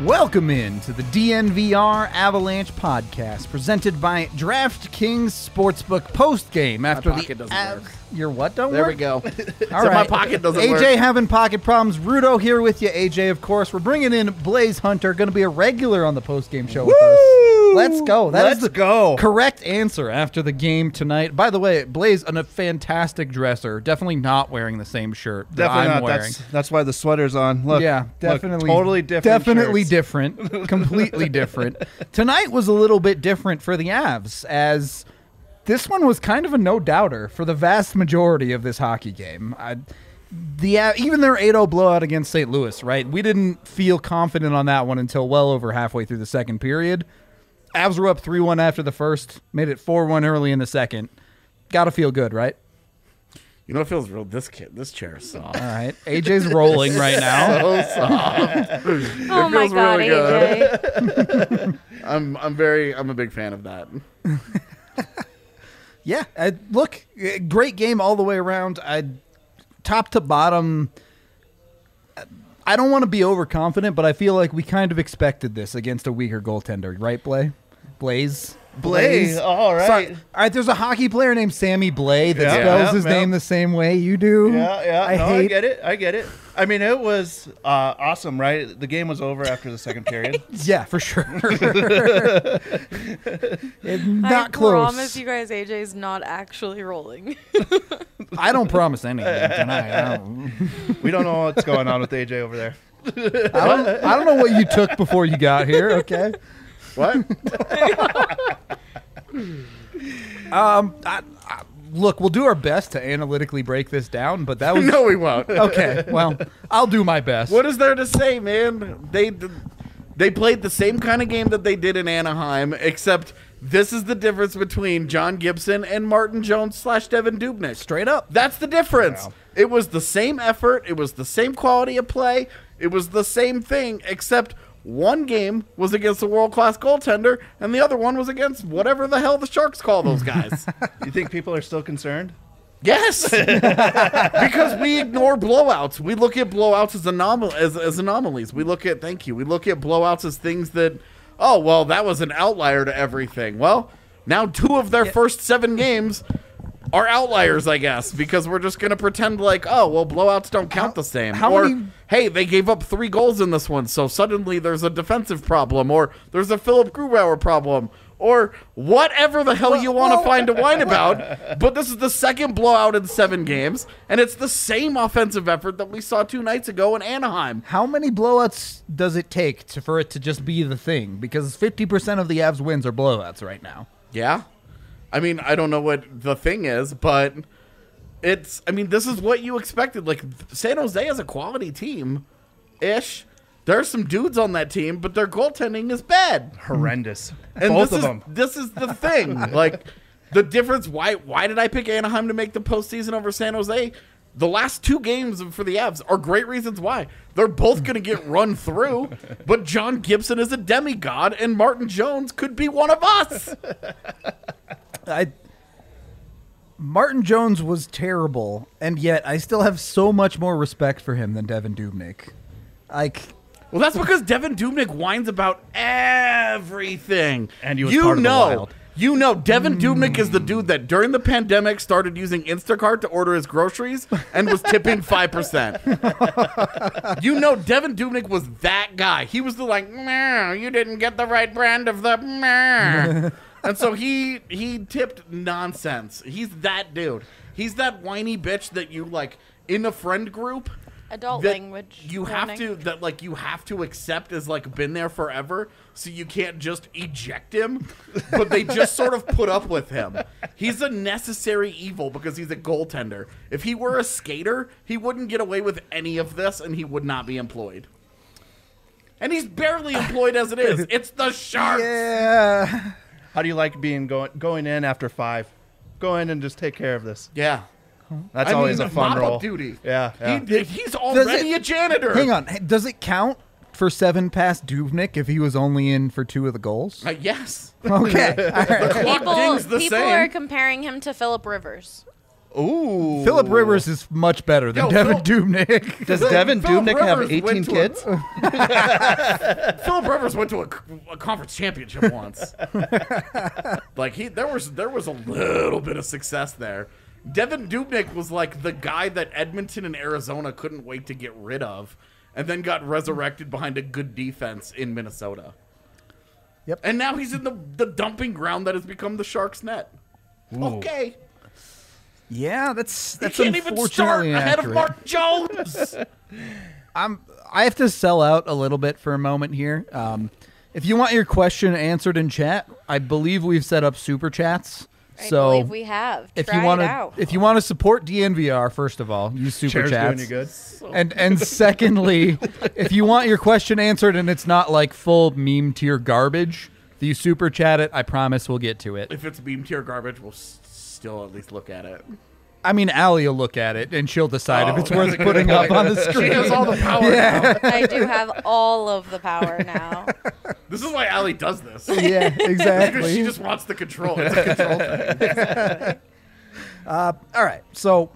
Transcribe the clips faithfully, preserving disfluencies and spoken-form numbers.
Welcome in to the D N V R Avalanche podcast, presented by DraftKings Sportsbook postgame after my pocket the doesn't Av- work. Your what don't There work? we go. All so right. my pocket doesn't A J work. having pocket problems. Rudo here with you. A J, of course. We're bringing in Blaze Hunter, going to be a regular on the postgame show with us. Let's go. That Let's is the go. correct answer after the game tonight. By the way, Blaze, a fantastic dresser. Definitely not wearing the same shirt that Definitely I'm not. wearing. That's that's why the sweater's on. Look, yeah, look, definitely. totally different. Definitely shirts. different. Completely different. Tonight was a little bit different for the Avs, as this one was kind of a no-doubter for the vast majority of this hockey game. I, the uh, even their eight oh blowout against Saint Louis, right? We didn't feel confident on that one until well over halfway through the second period. Avs were up three one after the first, made it four one early in the second. Got to feel good, right? You know what feels real? This kid, this chair is soft. All right. A J's rolling right now. So soft. Oh my feels god, really A J. I'm I'm very I'm a big fan of that. Yeah, uh, look, uh, great game all the way around. I, top to bottom, I don't want to be overconfident, but I feel like we kind of expected this against a weaker goaltender, right, Blay? Blaze? Blaze. All right. Sorry. All right, there's a hockey player named Sammy Blay that Yeah, spells yeah, his yeah. name the same way you do. Yeah, yeah. I no, hate I get it. I get it. I mean, it was uh, awesome, right? The game was over after the second period. Yeah, for sure. It's not I close. promise you guys A J's not actually rolling. I don't promise anything tonight. I don't, We don't know what's going on with A J over there. I don't, I don't know what you took before you got here, okay? What? Um, I, I, look, we'll do our best to analytically break this down, but that was No, we won't. okay. Well, I'll do my best. What is there to say, man? They they played the same kind of game that they did in Anaheim, except this is the difference between John Gibson and Martin Jones slash Devin Dubnyk. Straight up? That's the difference. Wow. It was the same effort. It was the same quality of play. It was the same thing, except one game was against a world-class goaltender, and the other one was against whatever the hell the Sharks call those guys. You think people are still concerned? Yes, because we ignore blowouts. We look at blowouts as, anom- as, as anomalies. We look at, thank you, we look at blowouts as things that, oh, well, that was an outlier to everything. Well, now two of their first seven games are outliers, I guess, because we're just going to pretend like, oh, well, blowouts don't count How- the same. how or, many- hey, they gave up three goals in this one, so suddenly there's a defensive problem, or there's a Philip Grubauer problem, or whatever the hell you want to well- find to whine about. But this is the second blowout in seven games, and it's the same offensive effort that we saw two nights ago in Anaheim. How many blowouts does it take to, for it to just be the thing? Because fifty percent of the Avs wins are blowouts right now. Yeah. I mean, I don't know what the thing is, but it's, I mean, this is what you expected. Like, San Jose is a quality team-ish. There's some dudes on that team, but their goaltending is bad. Horrendous. And Both this of is, them. This is the thing. Like, the difference, why why did I pick Anaheim to make the postseason over San Jose? The last two games for the Avs are great reasons why. They're both going to get run through, but John Gibson is a demigod, and Martin Jones could be one of us. I Martin Jones was terrible, and yet I still have so much more respect for him than Devin Dubnyk. Like, Well, that's because Devin Dubnyk whines about everything. And he was you part of the know, Wild. You know, Devin Dubnyk is the dude that during the pandemic started using Instacart to order his groceries and was tipping five percent. You know, Devin Dubnyk was that guy. He was the like, "Meow, you didn't get the right brand of the meow." And so he he tipped nonsense. He's that dude. He's that whiny bitch that you like in a friend group. Adult that language. you have warning. to that like you have to accept as like been there forever, so you can't just eject him, but they just sort of put up with him. He's a necessary evil because he's a goaltender. If he were a skater, he wouldn't get away with any of this, and he would not be employed. And he's barely employed as it is. It's the Sharks. yeah. How do you like being going going in after five? Go in and just take care of this. Yeah. That's I always mean, a fun mop-up role. duty. Yeah, yeah. He, he's already it- a janitor. Hang on. Hey, does it count for seven past Dubnyk if he was only in for two of the goals? Uh, yes. Okay. All right. Clock People, dings the people same. are comparing him to Philip Rivers. Ooh. Philip Rivers is much better than Yo, Devin Phil- Dubnyk. Does Devin Phillip Dubnyk have Rivers eighteen went to a- kids? Philip Rivers went to a, a conference championship once. Like he, there was there was a little bit of success there. Devin Dubnyk was like the guy that Edmonton and Arizona couldn't wait to get rid of, and then got resurrected behind a good defense in Minnesota. Yep. And now he's in the the dumping ground that has become the Sharks' net. Okay. Yeah, that's He that's can't even start unfortunately ahead of accurate. Mark Jones. I'm I have to sell out a little bit for a moment here. Um, if you want your question answered in chat, I believe we've set up super chats. I So believe we have. if Try you want it to out. if you want to support D N V R, first of all, use super Chair's doing chats. you good. And and secondly, if you want your question answered and it's not like full meme tier garbage, if you super chat it, I promise we'll get to it. If it's meme tier garbage, we'll s- still at least look at it. I mean, Allie will look at it and she'll decide if Oh, it's that's worth a good putting up point. on the She screen. has all the power now. I do have all of the power now. This is why Allie does this. Yeah, Because exactly. she just wants the control. It's a control thing. All right, so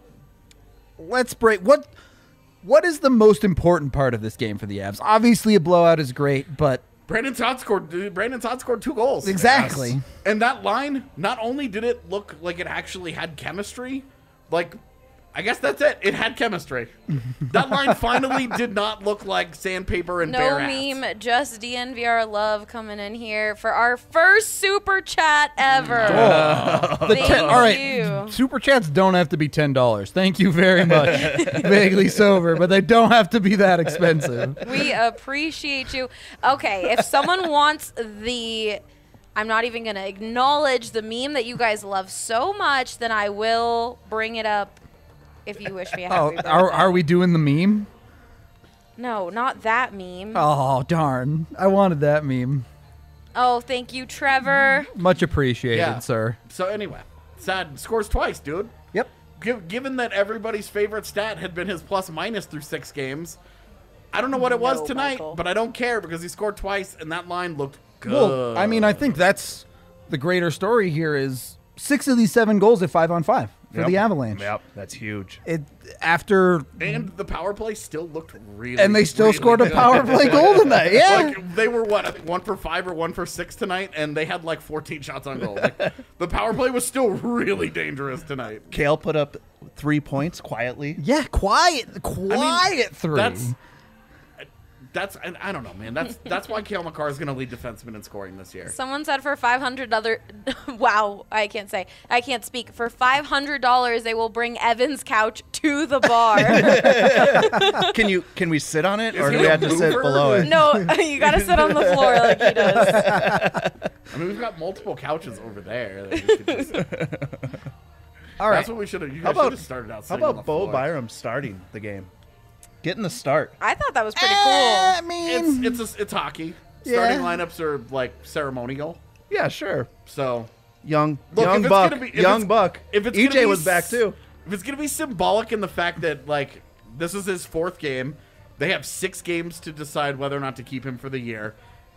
let's break. What what is the most important part of this game for the Avs? Obviously, a blowout is great, but Brandon Todd scored. dude, Brandon Todd scored two goals. exactly. Yes. And that line, not only did it look like it actually had chemistry, like I guess that's it. It had chemistry. That line finally did not look like sandpaper and No bare ass. meme, just D N V R love coming in here for our first super chat ever. The Thank ten, all right, you. super chats don't have to be ten dollars. Thank you very much. Vaguely sober, but they don't have to be that expensive. We appreciate you. Okay, if someone wants the, I'm not even going to acknowledge the meme that you guys love so much, then I will bring it up if you wish me a Oh, happy birthday. are are we doing the meme? No, not that meme. Oh darn! I wanted that meme. Oh, thank you, Trevor. Much appreciated, Yeah. sir. So anyway, Sad scores twice, dude. Yep. Giv given that everybody's favorite stat had been his plus minus through six games, I don't know what it was No, tonight, Michael. but I don't care because he scored twice and that line looked good. Well, I mean, I think that's the greater story here is six of these seven goals at five on five for Yep. the Avalanche. Yep, that's huge. It after and the power play still looked really and they still really scored a good. power play goal tonight. Yeah. Like they were what I think one for five or one for six tonight, and they had like fourteen shots on goal. Like, the power play was still really dangerous tonight. Kale put up three points quietly. yeah, quiet, quiet three. That's that's and I don't know, man. That's that's why Cale Makar is going to lead defenseman in scoring this year. Someone said for five hundred other, wow, I can't say, I can't speak. For five hundred dollars, they will bring Evan's couch to the bar. Can you? Can we sit on it, Is or do he we a have to sit mover? below it? No, you got to sit on the floor like he does. I mean, we've got multiple couches over there. That we could just, all right. That's what we should have. You How guys should about have started out. How sitting on about the Bo floor. Byram starting the game, getting the start? I thought that was pretty I cool. mean, It's it's a, it's hockey. Yeah. Starting lineups are like ceremonial. Yeah, sure. So Young, Look, if young it's buck, gonna be- if young it's- buck. if it's E gonna J be was back s- too. if it's gonna be symbolic in the fact that like this is his fourth game, they have six games to decide whether or not to keep him for the year.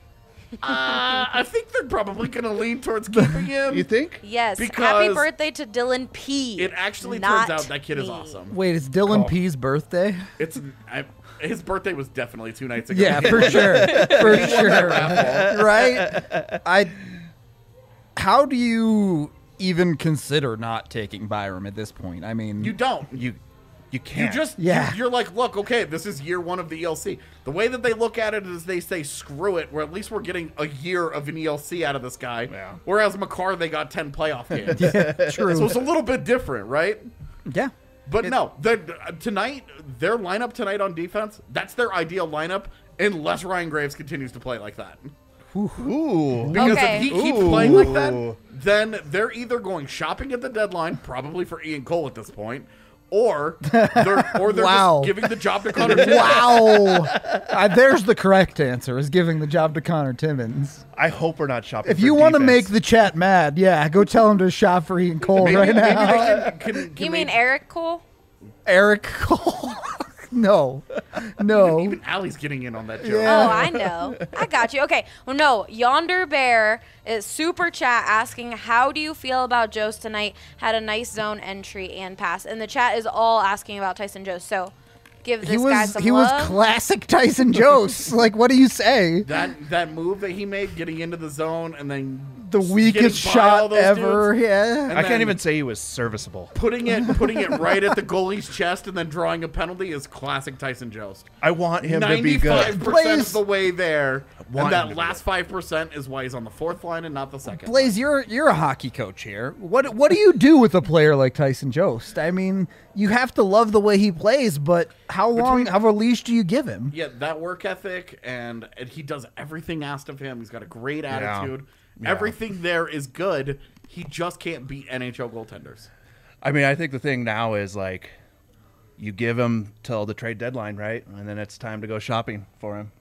Uh, I think they're probably gonna lean towards keeping him. You think? Yes. Happy Because birthday to Dylan P. It actually Not turns out that kid is me. awesome. wait, it's Dylan Oh. P's birthday? It's I, his birthday was definitely two nights ago. Yeah, for sure, for He won that sure. raffle. Right? I. How do you even consider not taking Byram at this point? I mean, You don't. You, you You can't. just Yeah. you, you're like, look, okay, this is year one of the E L C. The way that they look at it is they say, screw it. We're at least we're getting a year of an E L C out of this guy. Yeah. Whereas Makar, they got ten playoff games. true. So it's a little bit different, right? yeah. But no, the, uh, tonight their lineup tonight on defense, that's their ideal lineup, unless Ryan Graves continues to play like that. Ooh. Because Okay. if he keeps Ooh. playing like that, then they're either going shopping at the deadline, probably for Ian Cole at this point, or they're or they're Wow. just giving the job to Connor Timmins. Wow. uh, there's the correct answer: is giving the job to Connor Timmins. I hope we're not shopping. If for you want to defense. make the chat mad, yeah, go tell him to shop for Ian Cole Maybe, right maybe now. they can, can, can You they- mean Eric Cole? Eric Cole. No, no. Even Allie's getting in on that joke. Yeah. Oh, I know. I got you. Okay. Well, no. Yonder Bear is super chat asking, how do you feel about Jost tonight? Had a nice zone entry and pass. And the chat is all asking about Tyson Jost. So give this He guy was some he love. was classic Tyson Jost. Like, what do you say? That that move that he made, getting into the zone and then The weakest getting by all shot those ever. dudes, Yeah. and I can't then even say he was serviceable. putting it putting it right at the goalie's chest and then drawing a penalty is classic Tyson Jost. I want him to be Ninety-five good. percent Blaze- of the way there, want and him to that be last five percent is why he's on the fourth line and not the second. Blaze, you're you're a hockey coach here. What what do you do with a player like Tyson Jost? I mean, you have to love the way he plays, but how long Between- of a leash do you give him? Yeah, that work ethic, and, and he does everything asked of him. He's got a great attitude. Yeah. Everything there is good. He just can't beat N H L goaltenders. I mean, I think the thing now is like, you give him till the trade deadline, right? And then it's time to go shopping for him.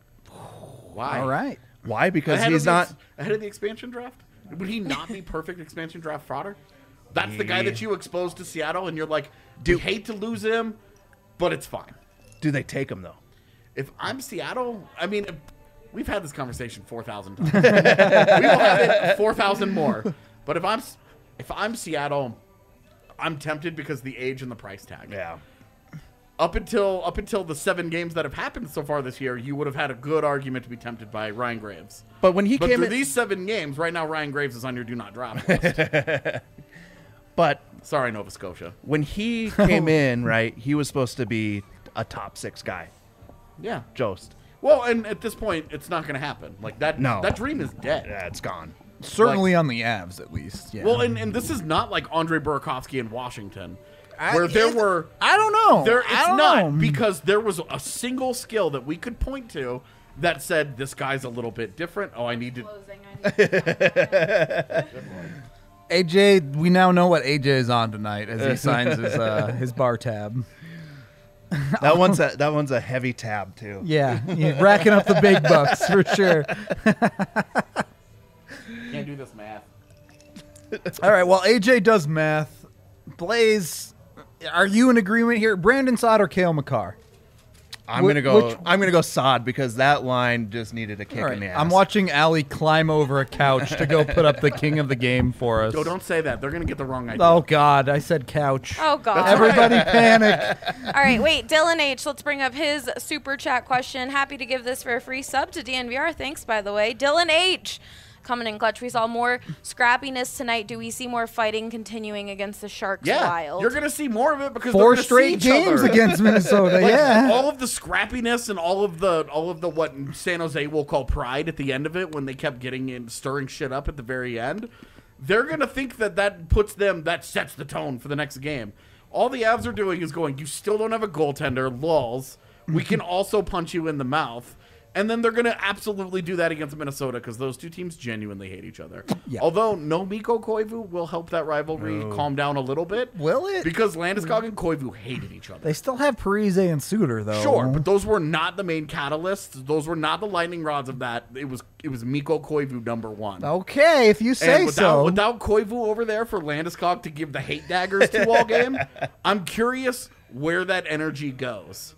Why? All right. Why? Because Ahead he's of the not. ex- ahead of the expansion draft. Would he not be perfect expansion draft fodder? That's the guy that you exposed to Seattle, and you're like, "Do hate to lose him, but it's fine." Do they take him though? If I'm Seattle, I mean, if- we've had this conversation four thousand times. We will have it four thousand more. But if I'm if I'm Seattle, I'm tempted because of the age and the price tag. Yeah. Up until up until the seven games that have happened so far this year, you would have had a good argument to be tempted by Ryan Graves. But when he But came through in, these seven games, right now Ryan Graves is on your do not draft list. but Sorry, Nova Scotia. when he came in, right, he was supposed to be a top six guy. Yeah. Jost. Well, and at this point, it's not going to happen. Like that. No. That dream is dead. Yeah, it's gone. Certainly on the Avs, at least. Yeah. Well, and, and this is not like Andre Burakovsky in Washington, I- where there it- were. I don't know. There, I it's don't not know. because there was a single skill that we could point to that said this guy's a little bit different. Oh, I need to. Closing, I need- A J, we now know what A J is on tonight as he signs his uh, his bar tab. That one's a that one's a heavy tab too. Yeah, yeah, racking up the big bucks for sure. Can't do this math. All right, well, A J does math. Blaze, are you in agreement here? Brandon Saad or Cale Makar? I'm Wh- gonna go. which- I'm gonna go Sod because that line just needed a kick All in right, the ass. I'm watching Allie climb over a couch to go put up the king of the game for us. Oh, don't say that. They're gonna get the wrong idea. Oh, God, I said couch. Oh, God. Everybody panic. All right, wait, Dylan H. Let's bring up his super chat question. Happy to give this for a free sub to D N V R. Thanks, by the way. Dylan H. Coming in clutch. We saw more scrappiness tonight. Do we see more fighting continuing against the Sharks Yeah, Wild? you're gonna see more of it because Four they're gonna straight see each games other. against Minnesota, Like, yeah. all of the scrappiness and all of the all of the what San Jose will call pride at the end of it when they kept getting in stirring shit up at the very end, they're gonna think that that puts them that sets the tone for the next game. All the Avs are doing is going, you still don't have a goaltender, lulz. We can also punch you in the mouth. And then they're going to absolutely do that against Minnesota because those two teams genuinely hate each other. Yeah. Although no Mikko Koivu will help that rivalry calm down a little bit. Will it? Because Landeskog and Koivu hated each other. They still have Parise and Suter, though. Sure, but those were not the main catalysts. Those were not the lightning rods of that. It was it was Mikko Koivu number one. Okay, if you say and without, so. without Koivu over there for Landeskog to give the hate daggers to all game, I'm curious where that energy goes.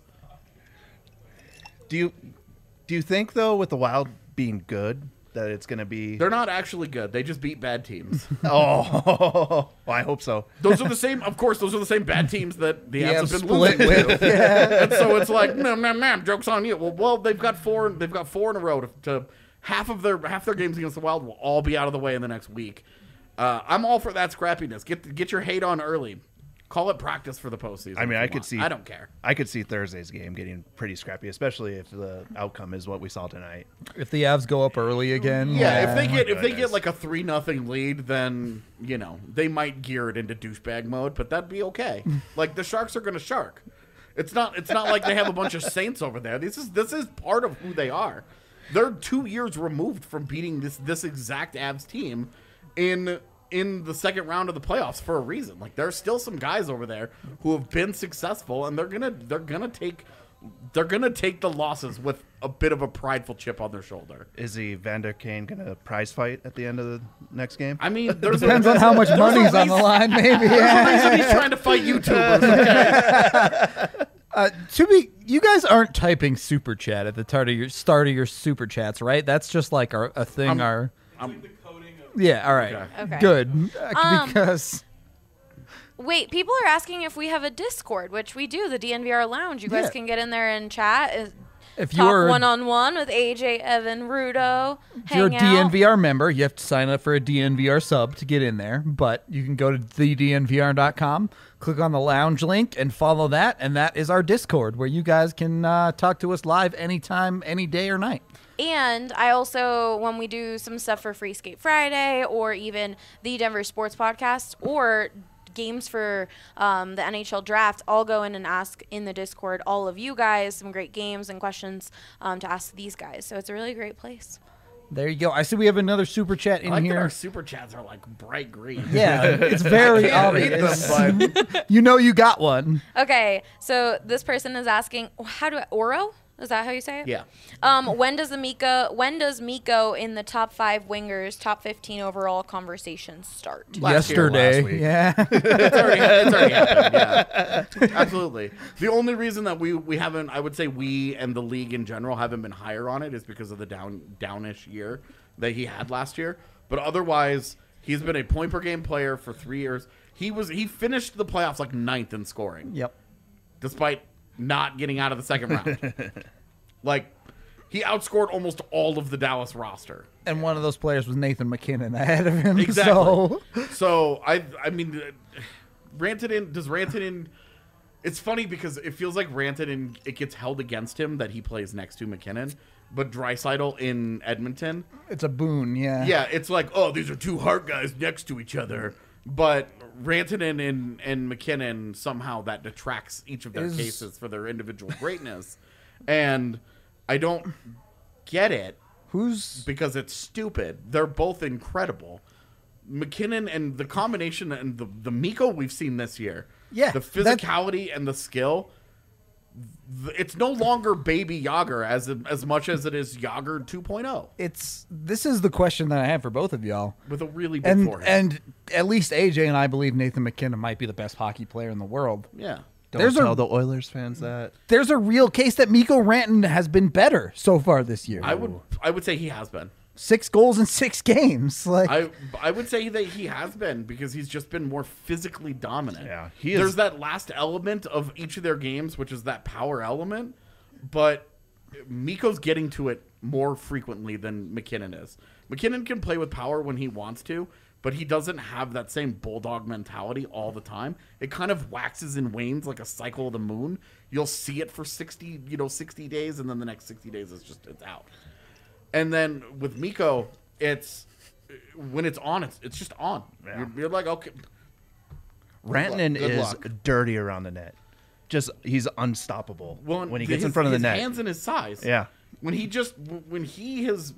Do you do you think though, with the Wild being good, that it's gonna be? They're not actually good. They just beat bad teams. Oh, well, I hope so. Those are the same. Of course, those are the same bad teams that the Yeah, Avs have been split losing with. to. Yeah. And so it's like, man, man, man, joke's on you. Well, well, they've got four. They've got four in a row to, to half of their half their games against the Wild will all be out of the way in the next week. Uh, I'm all for that scrappiness. Get get your hate on early. Call it practice for the postseason. I mean, if I you could want. see. I don't care. I could see Thursday's game getting pretty scrappy, especially if the outcome is what we saw tonight. If the Avs go up early again. Yeah, if they get if they goodness. get like a three nothing lead, then you know they might gear it into douchebag mode, but that'd be okay. Like the Sharks are going to shark. It's not it's not like they have a bunch of Saints over there. This is this is part of who they are. They're two years removed from beating this this exact Avs team in in the second round of the playoffs for a reason. Like there's still some guys over there who have been successful, and they're gonna they're gonna take they're gonna take the losses with a bit of a prideful chip on their shoulder. Is the Vander Kane gonna prize fight at the end of the next game? I mean, there's Depends a, on how much there's a money's on the reason- line, maybe. There's a Yeah. reason he's trying to fight YouTubers. Okay? Uh, to be, You guys aren't typing super chat at the start of your start of your super chats, right? That's just like our a thing. I'm- our I'm- yeah. All right. Okay. Okay. Good. Uh, Um, because Wait, people are asking if we have a Discord, which we do, the D N V R Lounge. You guys Yeah. can get in there and chat. uh, if Talk you're one on one with A J, Evan, Rudo. if you're a Hang D N V R out. member, you have to sign up for a D N V R sub to get in there. But you can go to the D N V R dot com, click on the lounge link, and follow that. And that is our Discord, where you guys can uh, talk to us live anytime, any day or night. And I also, when we do some stuff for Free Skate Friday or even the Denver Sports Podcast or games for um, the N H L draft, I'll go in and ask in the Discord all of you guys some great games and questions um, to ask these guys. So it's a really great place. There you go. I see we have another super chat I in like that here. our super chats are like bright green. Yeah, it's very I can't read obvious. them, but You know you got one. Okay, so this person is asking, how do I, Oro? Is that how you say it? yeah. Um, when does the Miko, when does Miko in the top five wingers, top fifteen overall conversation start? Last year, Yesterday. last week. Yeah. It's already, it's already happened. Yeah, absolutely. The only reason that we we haven't, I would say, we and the league in general haven't been higher on it is because of the down downish year that he had last year. But otherwise, he's been a point per game player for three years. He was he finished the playoffs like ninth in scoring, Yep. despite not getting out of the second round. Like, he outscored almost all of the Dallas roster. And one of those players was Nathan McKinnon ahead of him. Exactly. So So I, I mean, uh, Rantanen does Rantanen. It's funny because it feels like Rantanen. It gets held against him that he plays next to McKinnon, but Draisaitl in Edmonton. it's a boon. Yeah. Yeah, it's like, oh, these are two hard guys next to each other. But Rantanen and, and McKinnon, somehow that detracts each of their Is- cases for their individual greatness. And I don't get it Who's because it's stupid. They're both incredible. McKinnon and the combination and the, the Miko we've seen this year. Yeah, The that- physicality and the skill. th- It's no longer baby Yager as as much as it is Yager two point oh it's this is the question that I have for both of y'all. with a really big And forehead. and at least A J and I believe Nathan McKinnon might be the best hockey player in the world. yeah. Don't There's a- tell the Oilers fans that. There's a real case that Mikko Rantanen has been better so far this year. I would I would say he has been. Six goals in six games. Like I I would say that he has been because he's just been more physically dominant. Yeah, he is- There's that last element of each of their games, which is that power element, but Mikko's getting to it more frequently than McKinnon is. McKinnon can play with power when he wants to, but he doesn't have that same bulldog mentality all the time. It kind of waxes and wanes like a cycle of the moon. You'll see it for sixty, you know, sixty days, and then the next sixty days is just it's out. And then with Mikko, it's when it's on, it's it's just on. Yeah. You're, you're like, okay, Rantanen Good is luck. dirty around the net. Just he's unstoppable well, when he his- gets in front of the his net. hands and his size. Yeah. When he just when he has,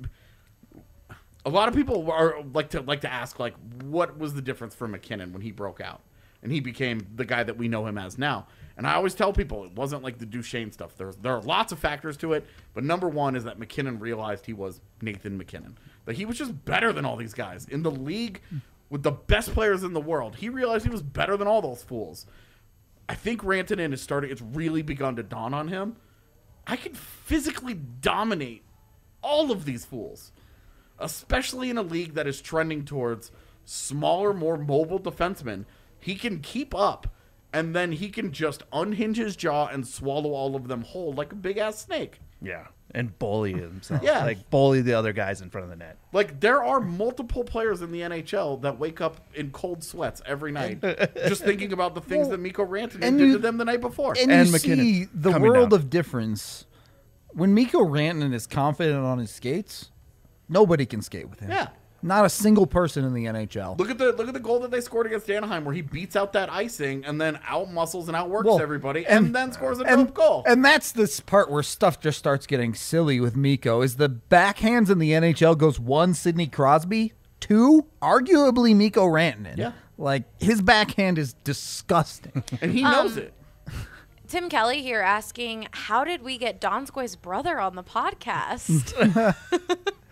a lot of people are like to like to ask like, what was the difference for McKinnon when he broke out and he became the guy that we know him as now? And I always tell people it wasn't like the Duchesne stuff. There's there are lots of factors to it, but number one is that McKinnon realized he was Nathan McKinnon, that he was just better than all these guys in the league with the best players in the world. He realized he was better than all those fools. I think Rantanen is starting. It's really begun to dawn on him. I can physically dominate all of these fools, especially in a league that is trending towards smaller, more mobile defensemen. He can keep up, and then he can just unhinge his jaw and swallow all of them whole like a big ass snake. Yeah. And bully himself. Yeah. Like bully the other guys in front of the net. Like there are multiple players in the N H L that wake up in cold sweats every night, just thinking about the things Well, that Mikko Rantanen and did you- to them the night before. and, And you McKinnon see the coming world down. of difference. When Mikko Rantanen is confident on his skates, nobody can skate with him. Yeah. Not a single person in the N H L. Look at the look at the goal that they scored against Anaheim, where he beats out that icing and then out muscles and outworks Well, everybody, and, and- then scores a and, dope goal. and that's this part where stuff just starts getting silly with Mikko. Is the backhands in the N H L goes one Sidney Crosby, two arguably Mikko Rantanen. Yeah. Like his backhand is disgusting. And he Um, knows it. Tim Kelly here asking, how did we get Donskoy's brother on the podcast?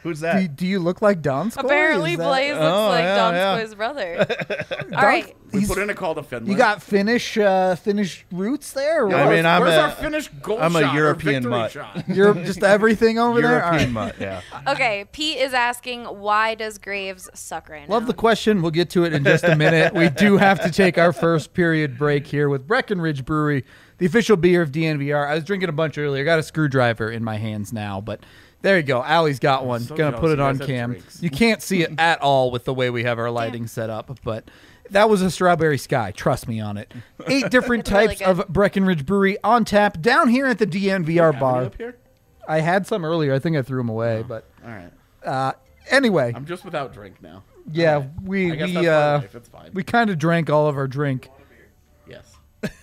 Who's Do, that? do you look like Donskoy? Apparently, Is that- Blaze looks Oh, like yeah, yeah. Donskoy's brother. All right. We He's- put in a call to Finland. You got Finnish uh, Finnish roots there? Or I what? mean, I'm Where's a- our Finnish goal I'm a shot or European victory mutt. shot? you're just everything over there. All European right. mutt. Yeah. Okay, Pete is asking, why does Graves suck right now? Love the question. We'll get to it in just a minute. We do have to take our first period break here with Breckenridge Brewery, the official beer of D N V R. I was drinking a bunch earlier. Got a screwdriver in my hands now, but there you go. Allie's got one. so Gonna jealous put it you on guys have cam. drinks. You can't see it at all with the way we have our lighting set up, but that was a Strawberry Sky. Trust me on it. Eight different Really types good. of Breckenridge Brewery on tap down here at the D N V R Have any bar. up here? I had some earlier. I think I threw them away, but All right. uh, anyway, I'm just without drink now. yeah, All right. we I guess we that's my uh, life. It's fine. we kind of drank all of our drink. Yes.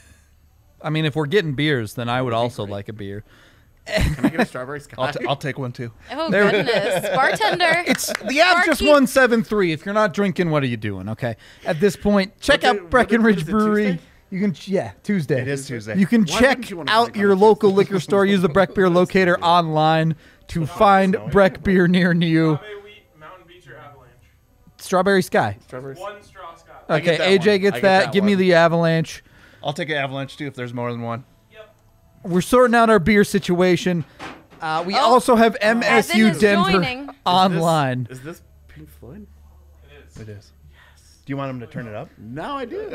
I mean, if we're getting beers, then I would also great. like a beer. Can I get a strawberry sky? I'll, t- I'll take one too. Oh, There- goodness. Bartender. It's the Avs just Barkeep. won seven three. If you're not drinking, what are you doing? Okay, at this point, check What day- out what- Breckenridge what is it, Brewery. Tuesday? You can yeah Tuesday. It is Tuesday. You can Why check wouldn't you wanna out drink on your a local Tuesday? liquor store. Use the Breck Beer Locator online to find Breck Beer near you. Agave wheat, Mountain Beach, or Avalanche. Strawberry Sky. Strawberry sky. One straw Scott. I get Okay, that A J one. gets I get that. that Give me one. the Avalanche. I'll take an Avalanche too if there's more than one. Yep. We're sorting out our beer situation. Uh, we Oh, also have M S U Evan is Denver joining. online. Is this, is this Pink Floyd? It is. It is. Do you want him to turn it up? No, I do.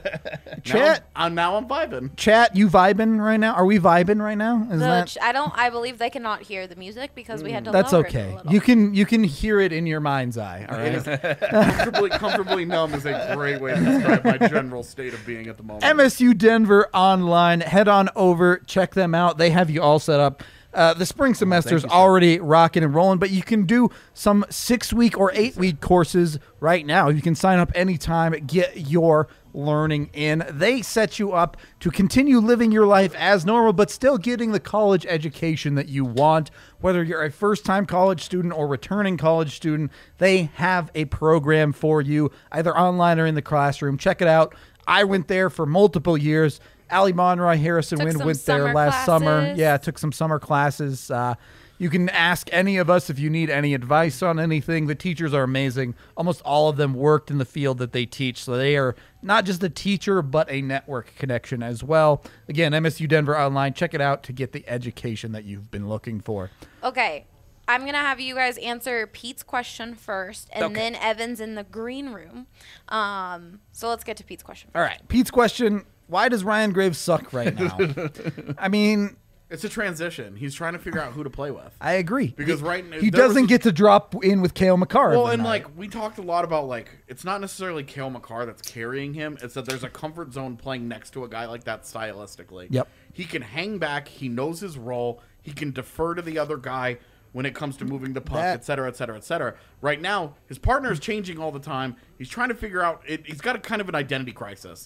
Chat, Now I'm, I'm now I'm vibing. chat, you vibing right now? Are we vibing right now? Is The that ch- I don't. I believe they cannot hear the music because we had to. that's lower it okay? a little. You can you can hear it in your mind's eye. All It right. is comfortably, comfortably numb is a great way to describe my general state of being at the moment. M S U Denver online. Head on over, check them out. They have you all set up. Uh, the spring semester's you, sir. already rocking and rolling, but you can do some six-week or eight-week courses right now. You can sign up anytime, get your learning in. They set you up to continue living your life as normal, but still getting the college education that you want. Whether you're a first-time college student or returning college student, they have a program for you, either online or in the classroom. Check it out. I went there for multiple years. Allie Monroy, Harrison Took Wind some went there summer last summer. classes. Yeah, took some summer classes. Uh, you can ask any of us if you need any advice on anything. The teachers are amazing. Almost all of them worked in the field that they teach, so they are not just a teacher, but a network connection as well. Again, M S U Denver Online. Check it out to get the education that you've been looking for. Okay. I'm going to have you guys answer Pete's question first, and Okay. then Evan's in the green room. Um, so let's get to Pete's question. All right, Pete's question, why does Ryan Graves suck right now? I mean, It's a transition. He's trying to figure out who to play with. I agree. Because He- right now- he there was doesn't a- get to drop in with Kale McCarr. Well, every and night. like we talked a lot about, like it's not necessarily Kale McCarr that's carrying him. It's that there's a comfort zone playing next to a guy like that stylistically. Yep. He can hang back. He knows his role. He can defer to the other guy when it comes to moving the puck, That- et cetera, et cetera, et cetera. Right now, his partner is changing all the time. He's trying to figure out. It, he's got a kind of an identity crisis.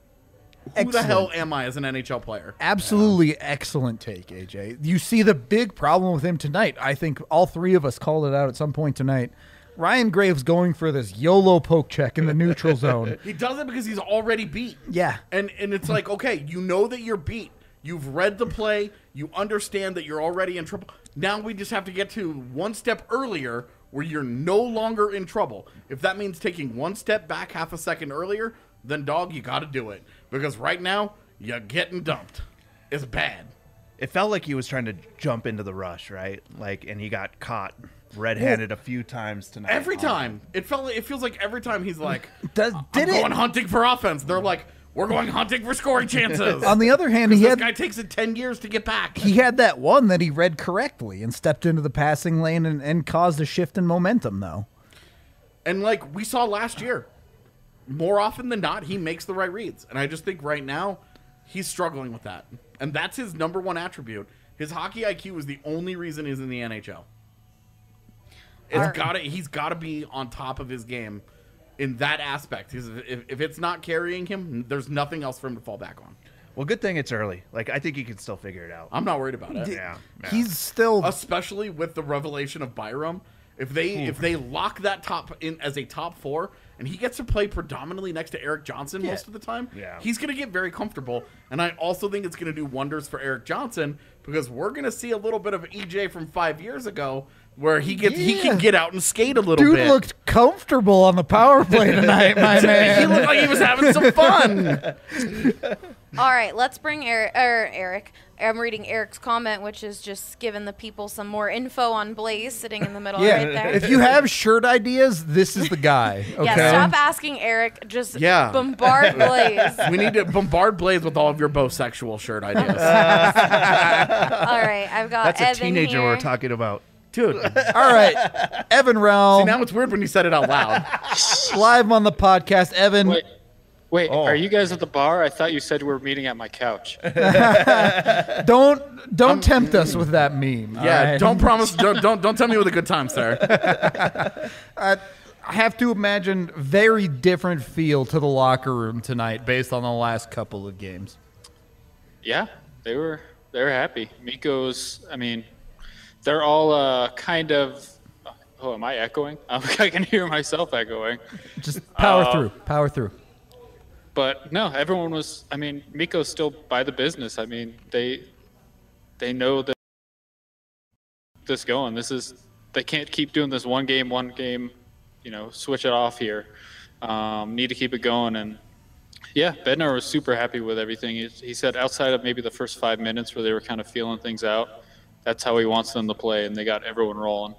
Who the Excellent. hell am I as an N H L player? Absolutely excellent take, A J. You see the big problem with him tonight. I think all three of us called it out at some point tonight. Ryan Graves going for this YOLO poke check in the neutral zone. He does it because he's already beat. Yeah. And and it's like, okay, you know that you're beat. You've read the play. You understand that you're already in trouble. Now we just have to get to one step earlier where you're no longer in trouble. If that means taking one step back half a second earlier, then dog, you got to do it. Because right now, you're getting dumped. It's bad. It felt like he was trying to jump into the rush, right? Like, and he got caught red-handed a few times tonight. Every time. It felt like, it feels like every time he's like, Does, I'm did going it? hunting for offense. They're like, we're going hunting for scoring chances. On the other hand, he this had guy takes it ten years to get back. he had that one that he read correctly and stepped into the passing lane and, and caused a shift in momentum, though. And like we saw last year, more often than not, he makes the right reads. And I just think right now, he's struggling with that. And that's his number one attribute. His hockey I Q is the only reason he's in the N H L. It's Alright. gotta he's gotta be on top of his game in that aspect. Because if, if it's not carrying him, there's nothing else for him to fall back on. Well, good thing it's early. Like, I think he can still figure it out. I'm not worried about it. yeah, yeah. He's still Especially with the revelation of Byram If they if they lock that top in as a top four, and he gets to play predominantly next to Eric Johnson Yeah. most of the time, Yeah. he's going to get very comfortable. And I also think it's going to do wonders for Eric Johnson because we're going to see a little bit of E J from five years ago where he gets he Yeah. can get out and skate a little Dude bit. looked comfortable on the power play tonight, my he man. looked like he was having some fun. All right, let's bring Eric. Er, Eric. I'm reading Eric's comment, which is just giving the people some more info on Blaze sitting in the middle Yeah, right there. if you have shirt ideas, this is the guy. Okay. Yeah, stop asking Eric. Just Yeah. bombard Blaze. We need to bombard Blaze with all of your bisexual shirt ideas. All right, I've got That's a Evan teenager here. we're talking about. Dude, All right, Evan Realm, now it's weird when you said it out loud. live on the podcast. Evan, Wait, wait, Oh. are you guys at the bar? I thought you said we were meeting at my couch. don't don't tempt us with that meme. all Yeah, right? don't promise. Don't, don't don't tell me with a good time, sir. I have to imagine very different feel to the locker room tonight based on the last couple of games. Yeah, they were they were happy. Miko's, I mean, they're all uh, kind of. Oh, am I echoing? I can hear myself echoing. Just power Uh, through, power through. But no, everyone was. I mean, Miko's still by the business. I mean, they they know that this going. This is they can't keep doing this one game, one game. You know, switch it off here. Um, need to keep it going. And yeah, Bednar was super happy with everything. He, he said outside of maybe the first five minutes where they were kind of feeling things out, that's how he wants them to play, and they got everyone rolling.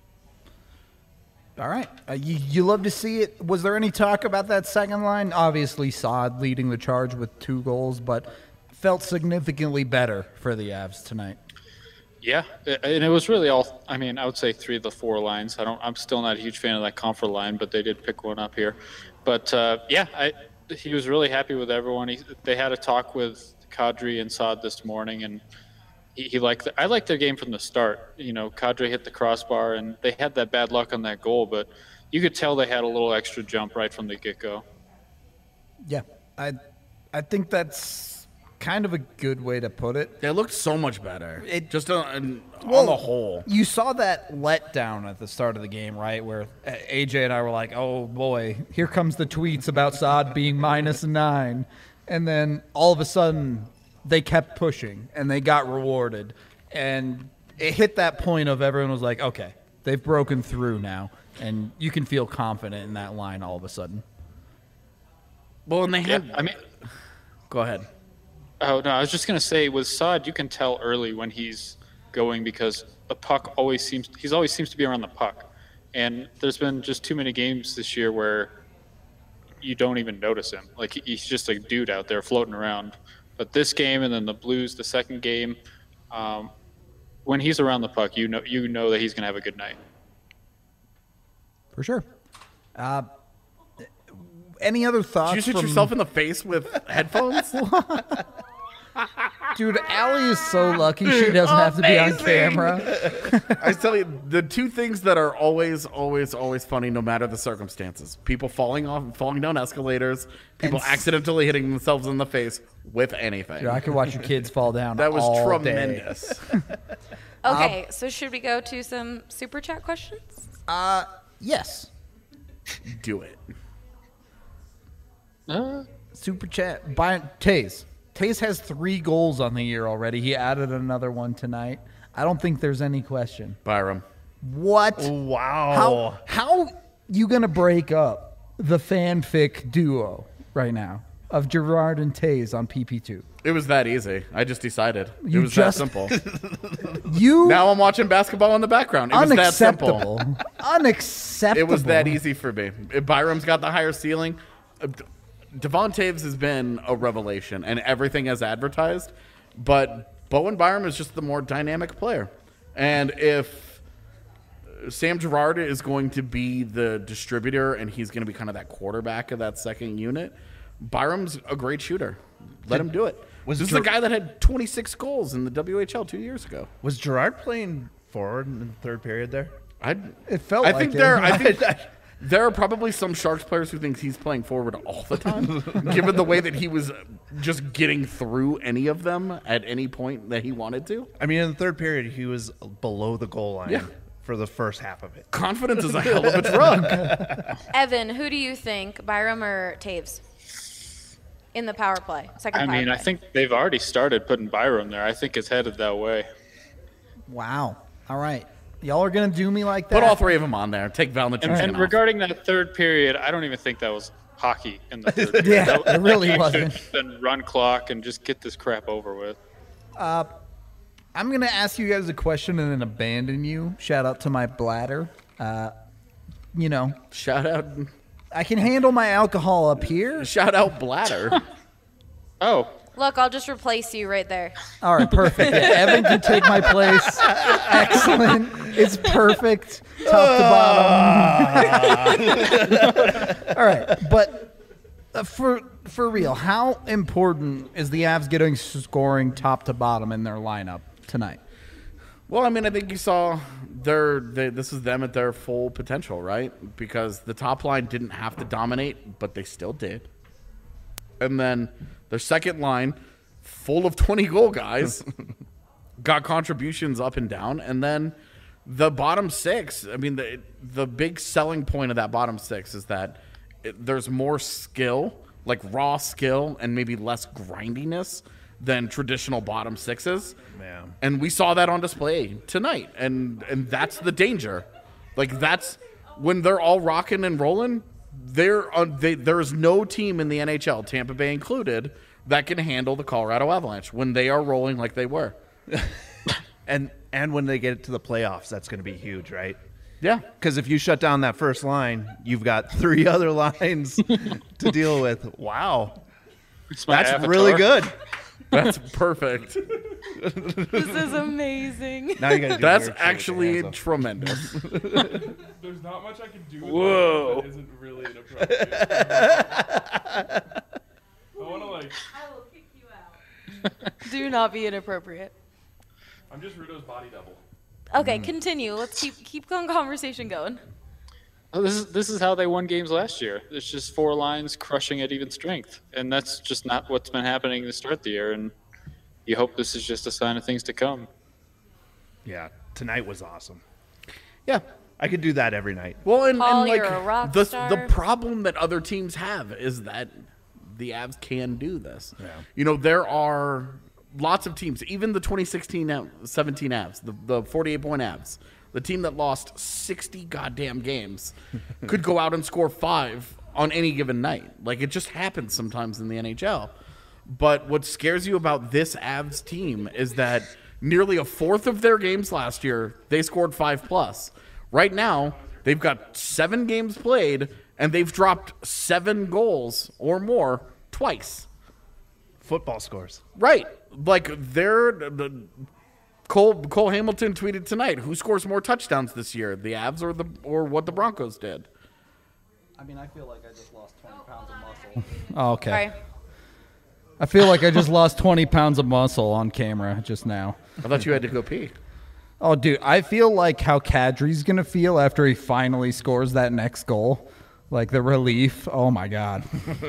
All right. Uh, you, you love to see it. Was there any talk about that second line? Obviously, Saad leading the charge with two goals, but felt significantly better for the Avs tonight. Yeah, a- and it was really all. I mean, I would say three of the four lines. I don't. I'm still not a huge fan of that comfort line, but they did pick one up here. But uh, yeah, I, he was really happy with everyone. He, they had a talk with Kadri and Saad this morning, and he, he liked. The, I liked their game from the start. You know, Kadri hit the crossbar, and they had that bad luck on that goal, but you could tell they had a little extra jump right from the get-go. Yeah, I, I think that's kind of a good way to put it. They looked so much better. It- just on, on Well, the whole. You saw that letdown at the start of the game, right? Where A J and I were like, oh boy, here comes the tweets about Saad being minus nine. And then all of a sudden, they kept pushing and they got rewarded. And it hit that point of everyone was like, okay, they've broken through now. And you can feel confident in that line all of a sudden. Well, and they Yeah, had. I mean, Go ahead. oh no, I was just gonna say with Saad, you can tell early when he's going because the puck always seems he's always seems to be around the puck, and there's been just too many games this year where you don't even notice him. Like he- he's just a dude out there floating around. But this game and then the Blues, the second game, um, when he's around the puck, you know you know that he's gonna have a good night. For sure. Uh, any other thoughts? Did you shoot from- yourself in the face with headphones? Dude, Allie is so lucky she doesn't have to be on Amazing. camera. I tell you, the two things that are always, always, always funny, no matter the circumstances: people falling off, falling down escalators, people And s- accidentally hitting themselves in the face with anything. Dude, I could watch your kids fall down. That was all day. tremendous. Okay, so should we go to some super chat questions? Uh, yes. Do it. Uh, Super chat. By Taze. Taze has three goals on the year already. He added another one tonight. I don't think there's any question. Byram. What? Wow. How how you gonna break up the fanfic duo right now of Gerard and Taze on P P two? It was that easy. I just decided. You it was just- that simple. You Now I'm watching basketball in the background. It was that simple. unacceptable. Unacceptable. It was that easy for me. If Byram's got the higher ceiling. uh, Devon Taves has been a revelation, and everything as advertised. But Bowen Byram is just the more dynamic player. And if Sam Girard is going to be the distributor and he's going to be kind of that quarterback of that second unit, Byram's a great shooter. Let him do it. Was this Ger- is the guy that had twenty-six goals in the W H L two years ago. Was Gerard playing forward in the third period there? I It felt I like think it. there. I think there are probably some Sharks players who think he's playing forward all the time, given the way that he was just getting through any of them at any point that he wanted to. I mean, in the third period, he was below the goal line Yeah. for the first half of it. Confidence is a hell of a drug. Evan, who do you think, Byram or Taves, in the power play? Second I power mean, play. I think they've already started putting Byram there. I think it's headed that way. Wow. All right. Y'all are going to do me like that? Put all three of them on there. Take And, Valanciunas and off. regarding that third period, I don't even think that was hockey in the third period. Yeah, That- it really that game wasn't. should've been run clock and just get this crap over with. I'm going to ask you guys a question and then abandon you. Shout out to my bladder. Uh, you know, Shout out, I can handle my alcohol up here. shout out Bladder. Oh, Look, I'll just replace you right there. All right, perfect. Yeah, Evan can take my place. Excellent. It's perfect. Top to bottom. All right, but uh, for for real, how important is the Avs getting scoring top to bottom in their lineup tonight? Well, I mean, I think you saw their they, this is them at their full potential, right? Because the top line didn't have to dominate, but they still did. And then their second line, full of twenty goal guys, got contributions up and down. And then the bottom six, I mean, the the big selling point of that bottom six is that it, there's more skill, like raw skill, and maybe less grindiness than traditional bottom sixes. Yeah. And we saw that on display tonight. And and that's the danger. Like, that's when they're all rocking and rolling, there on they, there is no team in the N H L, Tampa Bay included, that can handle the Colorado Avalanche when they are rolling like they were. And and when they get to the playoffs, that's going to be huge, right? Yeah. Because if you shut down that first line, you've got three other lines to deal with. Wow. it's my That's avatar. really good. That's perfect. This is amazing. Now you got to do That's weird shit with your actually hands up. tremendous. There's not much I can do with Whoa. that that isn't really inappropriate. I want to like, I will kick you out. Do not be inappropriate. I'm just Rudo's body double. Okay, continue. Let's keep keep on conversation going. Oh, this is this is how they won games last year. It's just four lines crushing at even strength, and that's just not what's been happening to start the year. And you hope this is just a sign of things to come. Yeah, tonight was awesome. Yeah. I could do that every night. Well, and, Paul, and like you're a rock the star. the problem that other teams have is that the Avs can do this. Yeah. You know, there are lots of teams, even the twenty sixteen Av- seventeen Avs, the, the forty-eight point Avs, the team that lost sixty goddamn games, could go out and score five on any given night. Like, it just happens sometimes in the N H L. But what scares you about this Avs team is that nearly a fourth of their games last year, they scored five plus. Right now, they've got seven games played, and they've dropped seven goals or more twice. Football scores. Right. Like, they're... the- Cole Cole Hamilton tweeted tonight, who scores more touchdowns this year, the Avs or the or what the Broncos did? I mean, I feel like I just lost twenty pounds of muscle. Oh, okay. Sorry. I feel like I just lost twenty pounds of muscle on camera just now. I thought you had to go pee. Oh, dude, I feel like how Kadri's going to feel after he finally scores that next goal. Like the relief. Oh, my God.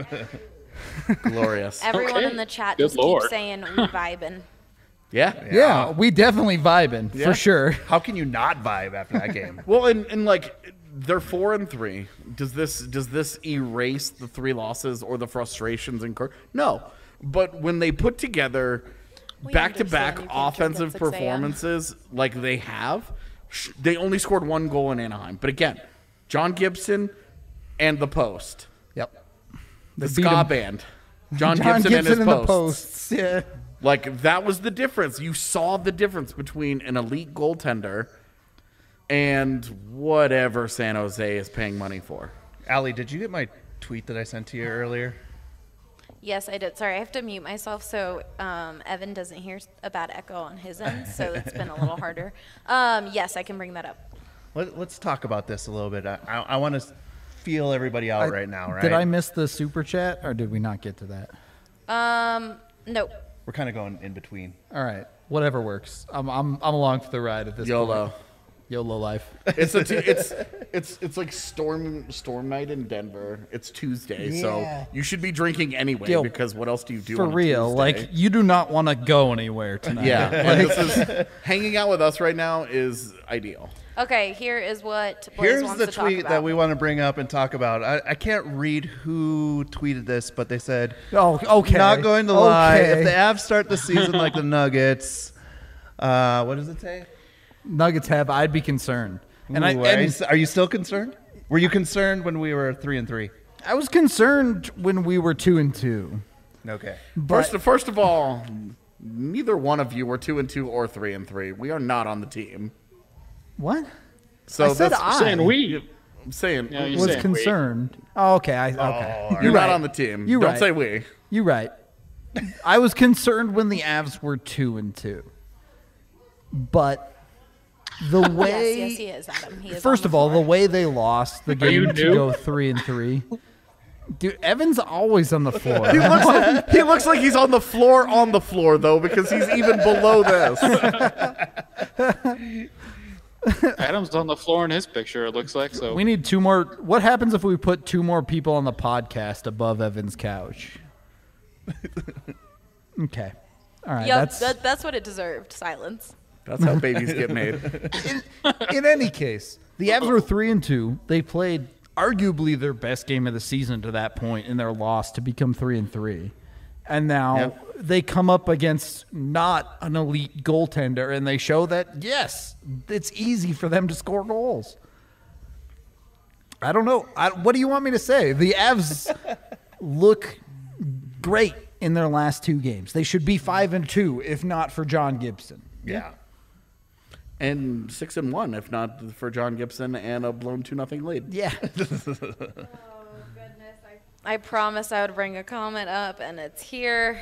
Glorious. Everyone Okay. in the chat Good just lord. keeps saying we vibing. Yeah. Yeah, we definitely vibing, Yeah. for sure. How can you not vibe after that game? Well, and, and like they're four and three. Does this does this erase the three losses or the frustrations and cur- no? But when they put together We back to back understand you can't offensive keep up six a m. performances like they have, sh- they only scored one goal in Anaheim. But again, John Gibson and the post, Yep. the They beat ska him. band, John, John Gibson, and his in the posts. posts. Yeah. Like, that was the difference. You saw the difference between an elite goaltender and whatever San Jose is paying money for. Allie, did you get my tweet that I sent to you earlier? Yes, I did. Sorry, I have to mute myself so um, Evan doesn't hear a bad echo on his end, so it's been a little harder. Um, yes, I can bring that up. Let, let's talk about this a little bit. I, I, I want to feel everybody out I- right now, right? Did I miss the super chat, or did we not get to that? Um, no. We're kind of going in between. All right. Whatever works. I'm, I'm, I'm along for the ride at this YOLO. point. YOLO life. It's a t- it's it's it's like storm storm night in Denver. It's Tuesday, Yeah. so you should be drinking anyway Yo, because what else do you do For on a real, Tuesday? like you do not want to go anywhere tonight. Yeah, and this is hanging out with us right now is ideal. Okay, here is what Blaze Here's wants the to talk tweet about. that we want to bring up and talk about. I, I can't read who tweeted this, but they said, Oh, okay. not going to lie, Okay. if the Avs start the season like the Nuggets, uh, what does it say? Nuggets have, I'd be concerned. And Ooh, I are, you, and s- are you still concerned? Were you concerned when we were three and three? I was concerned when we were two and two. Okay. First, first of all, neither one of you were two and two or three and three. We are not on the team. What? So I said that's, I Saying we. I'm saying Yeah, you was saying we. concerned. Oh, okay. I, okay. you're You're not right. on the team. You're Don't right. say we. You're right. I was concerned when the Avs were two and two. But the way Yes, yes, he is, Adam. He is First on of the all, floor. the way they lost the you game to new? go three and three. Dude, Evan's always on the floor. He looks like he looks like he's on the floor on the floor though because he's even below this. Adam's on the floor in his picture, it looks like. So We need two more. What happens if we put two more people on the podcast above Evan's couch? Okay. All right. Yep, that's that, that's what it deserved. Silence. That's how babies get made. in any case. The Avs were three and two. They played arguably their best game of the season to that point in their loss to become three and three. And now Yep. they come up against not an elite goaltender, and they show that yes, it's easy for them to score goals. I don't know. I, what do you want me to say? The Avs look great in their last two games. They should be five and two if not for John Gibson. Yeah. And six and one, if not for John Gibson and a blown two nothing lead. Yeah. I promised I would bring a comment up, and it's here.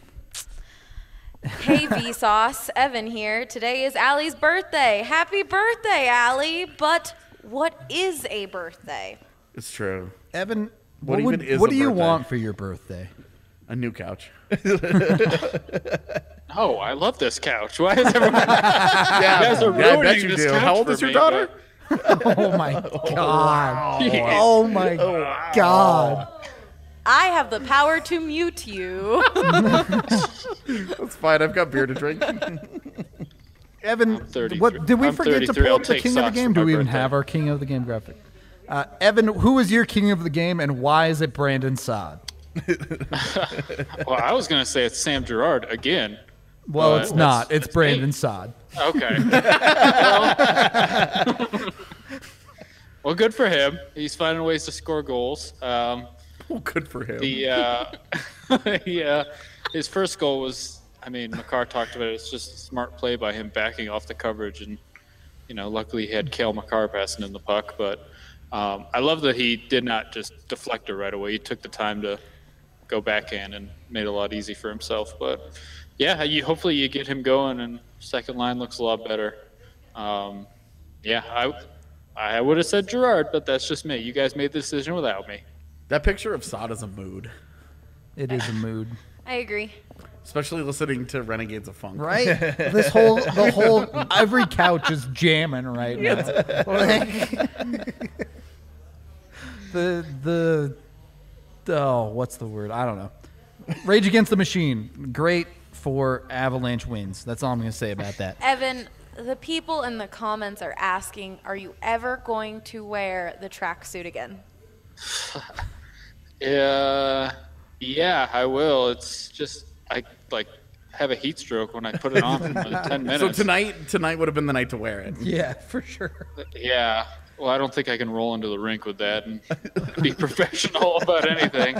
Hey, Vsauce. Evan here. Today is Allie's birthday. Happy birthday, Allie. But what is a birthday? It's true. Evan, What what, would, even is what a do you birthday? want for your birthday? A new couch. Oh, I love this couch. Why is everyone? Yeah, You guys are yeah, I bet ruining you this do. couch How old for is your me, daughter? Oh my god. Jeez. Oh my god. I have the power to mute you. That's fine. I've got beer to drink. Evan, thirty-three. what did we I'm forget to thirty-three. pull I'll up the take king of the socks game? for Do my we even birthday. have our king of the game graphic? Uh, Evan, who is your king of the game and why is it Brandon Saad? Well, I was gonna say it's Sam Gerard again. Well, But it's that's- not. It's that's Brandon me. Saad. Okay. well, well, good for him. He's finding ways to score goals. Um, Well, good for him. the uh, yeah, his first goal was. I mean, Makar talked about it. It's just a smart play by him backing off the coverage, and you know, luckily he had Kale Makar passing in the puck. But um, I love that he did not just deflect it right away. He took the time to go backhand and made it a lot easy for himself. But yeah, you hopefully you get him going, and second line looks a lot better. Um, yeah, I I would have said Gerard, but that's just me. You guys made the decision without me. That picture of Sod is a mood, It is a mood. I agree. especially listening to Renegades of Funk. Right? This whole, the whole, every couch is jamming right now. Like, the, the, oh, what's the word? I don't know. Rage Against the Machine. Great for Avalanche wins. That's all I'm going to say about that. Evan, the people in the comments are asking, are you ever going to wear the tracksuit again? Yeah, yeah, I will. It's just I like have a heat stroke when I put it on for ten minutes. So tonight, tonight would have been the night to wear it. Yeah, for sure. Yeah. Well, I don't think I can roll into the rink with that and be professional about anything.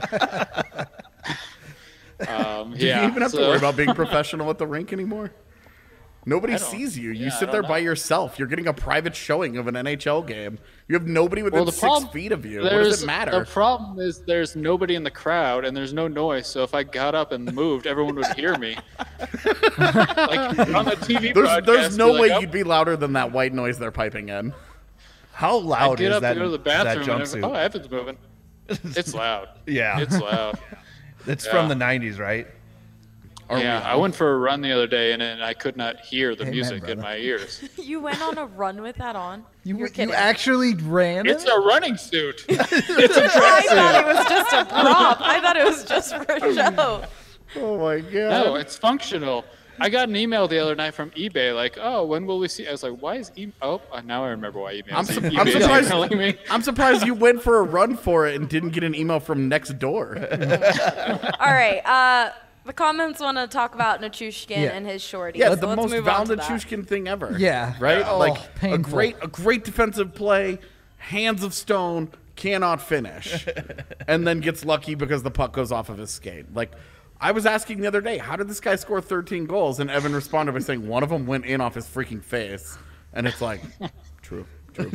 Um, Do yeah. you even have so- to worry about being professional at the rink anymore? Nobody I don't- sees you. You yeah, I sit don't there know. by yourself. You're getting a private showing of an N H L game. You have nobody within Well, the six problem, feet of you. What there's- does it matter? The problem is there's nobody in the crowd and there's no noise. So if I got up and moved, everyone would hear me. Like on the T V There's, broadcast, there's no be like, way "Oh, you'd be louder than that white noise they're piping in. How I'd loud get is up that, to go to the that bathroom and jumpsuit? oh, Evan's moving. It's loud. Yeah. It's loud. It's Yeah. from the nineties, right? Are yeah, we I on? went for a run the other day and, and I could not hear the Amen, music brother. in my ears. You went on a run with that on? You, You're you kidding. actually ran It's it? a running suit. It's a I tracksuit. thought it was just a prop. I thought it was just for a show. Oh my god. No, it's functional. I got an email the other night from eBay, like, "Oh, when will we see?" I was like, "Why is e? Oh, uh, now I remember why email. I'm, su- eBay I'm is surprised. emailing me. I'm surprised you went for a run for it and didn't get an email from next door. All right. Uh, the comments want to talk about Nichushkin Yeah. and his shorty. Yeah, so the let's most move on to that. Valenchushkin thing ever. Yeah. Right? Oh, like a painful. great a great defensive play, hands of stone, cannot finish. And then gets lucky because the puck goes off of his skate. Like I was asking the other day, how did this guy score thirteen goals? And Evan responded by saying one of them went in off his freaking face. And it's like, true, true.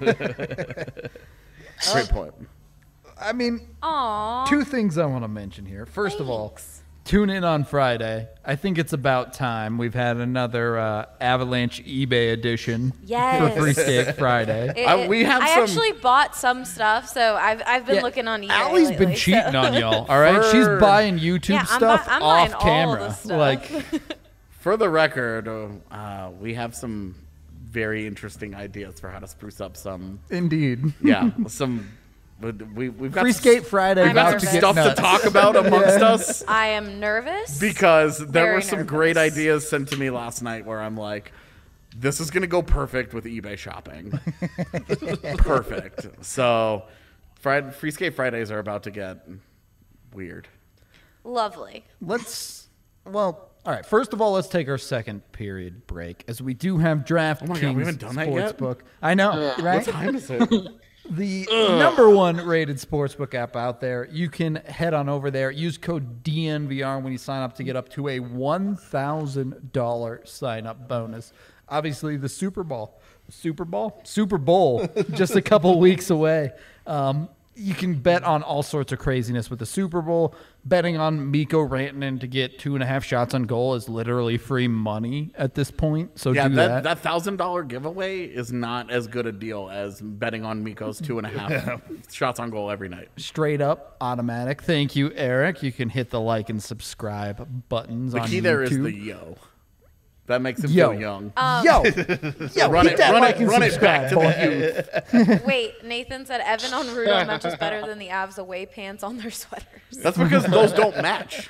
Great point. I mean, Aw. two things I want to mention here. First of all, Thanks. tune in on Friday. I think it's about time. We've had another uh, Avalanche eBay edition Yes. for Free Skate Friday. It- Uh, it- we have I some- actually bought some stuff, so I've I've been Yeah, looking on eBay. Allie's been lately, cheating so. on y'all. All right, she's For- buying YouTube Yeah, I'm stuff bu- I'm buying off all camera. the stuff. Like, For the record, uh, uh, we have some very interesting ideas for how to spruce up some, indeed. yeah, some. We we've got Free some, Skate Friday I'm about got to some get stuff nuts. to talk about amongst us I am nervous. because there Very were some nervous. great ideas sent to me last night where I'm like, this is gonna go perfect with eBay shopping. Perfect. So, Friday, Free Skate Fridays are about to get weird. Lovely. Let's, well, all right. First of all, let's take our second period break as we do have DraftKings Oh my God, we haven't done that yet? Sportsbook. I know, right? What time is it? The number one rated sportsbook app out there. You can head on over there. Use code D N V R when you sign up to get up to a one thousand dollars sign up bonus. Obviously, the Super Bowl, Super Bowl, Super Bowl, just a couple weeks away. Um, you can bet on all sorts of craziness with the Super Bowl. Betting on Mikko Rantanen to get two and a half shots on goal is literally free money at this point. So Yeah, do that that. that thousand dollar giveaway is not as good a deal as betting on Mikko's two and a half shots on goal every night. Straight up automatic. Thank you, Eric. You can hit the like and subscribe buttons The on key YouTube. there is the yo. That makes him Yo. feel young. Yo, yo, run hit it, that run like it, and run it subscribe, back to boy. the youth. Wait, Nathan said Evan on Rudo Mensch is better than the Avs away pants on their sweaters. That's because those don't match.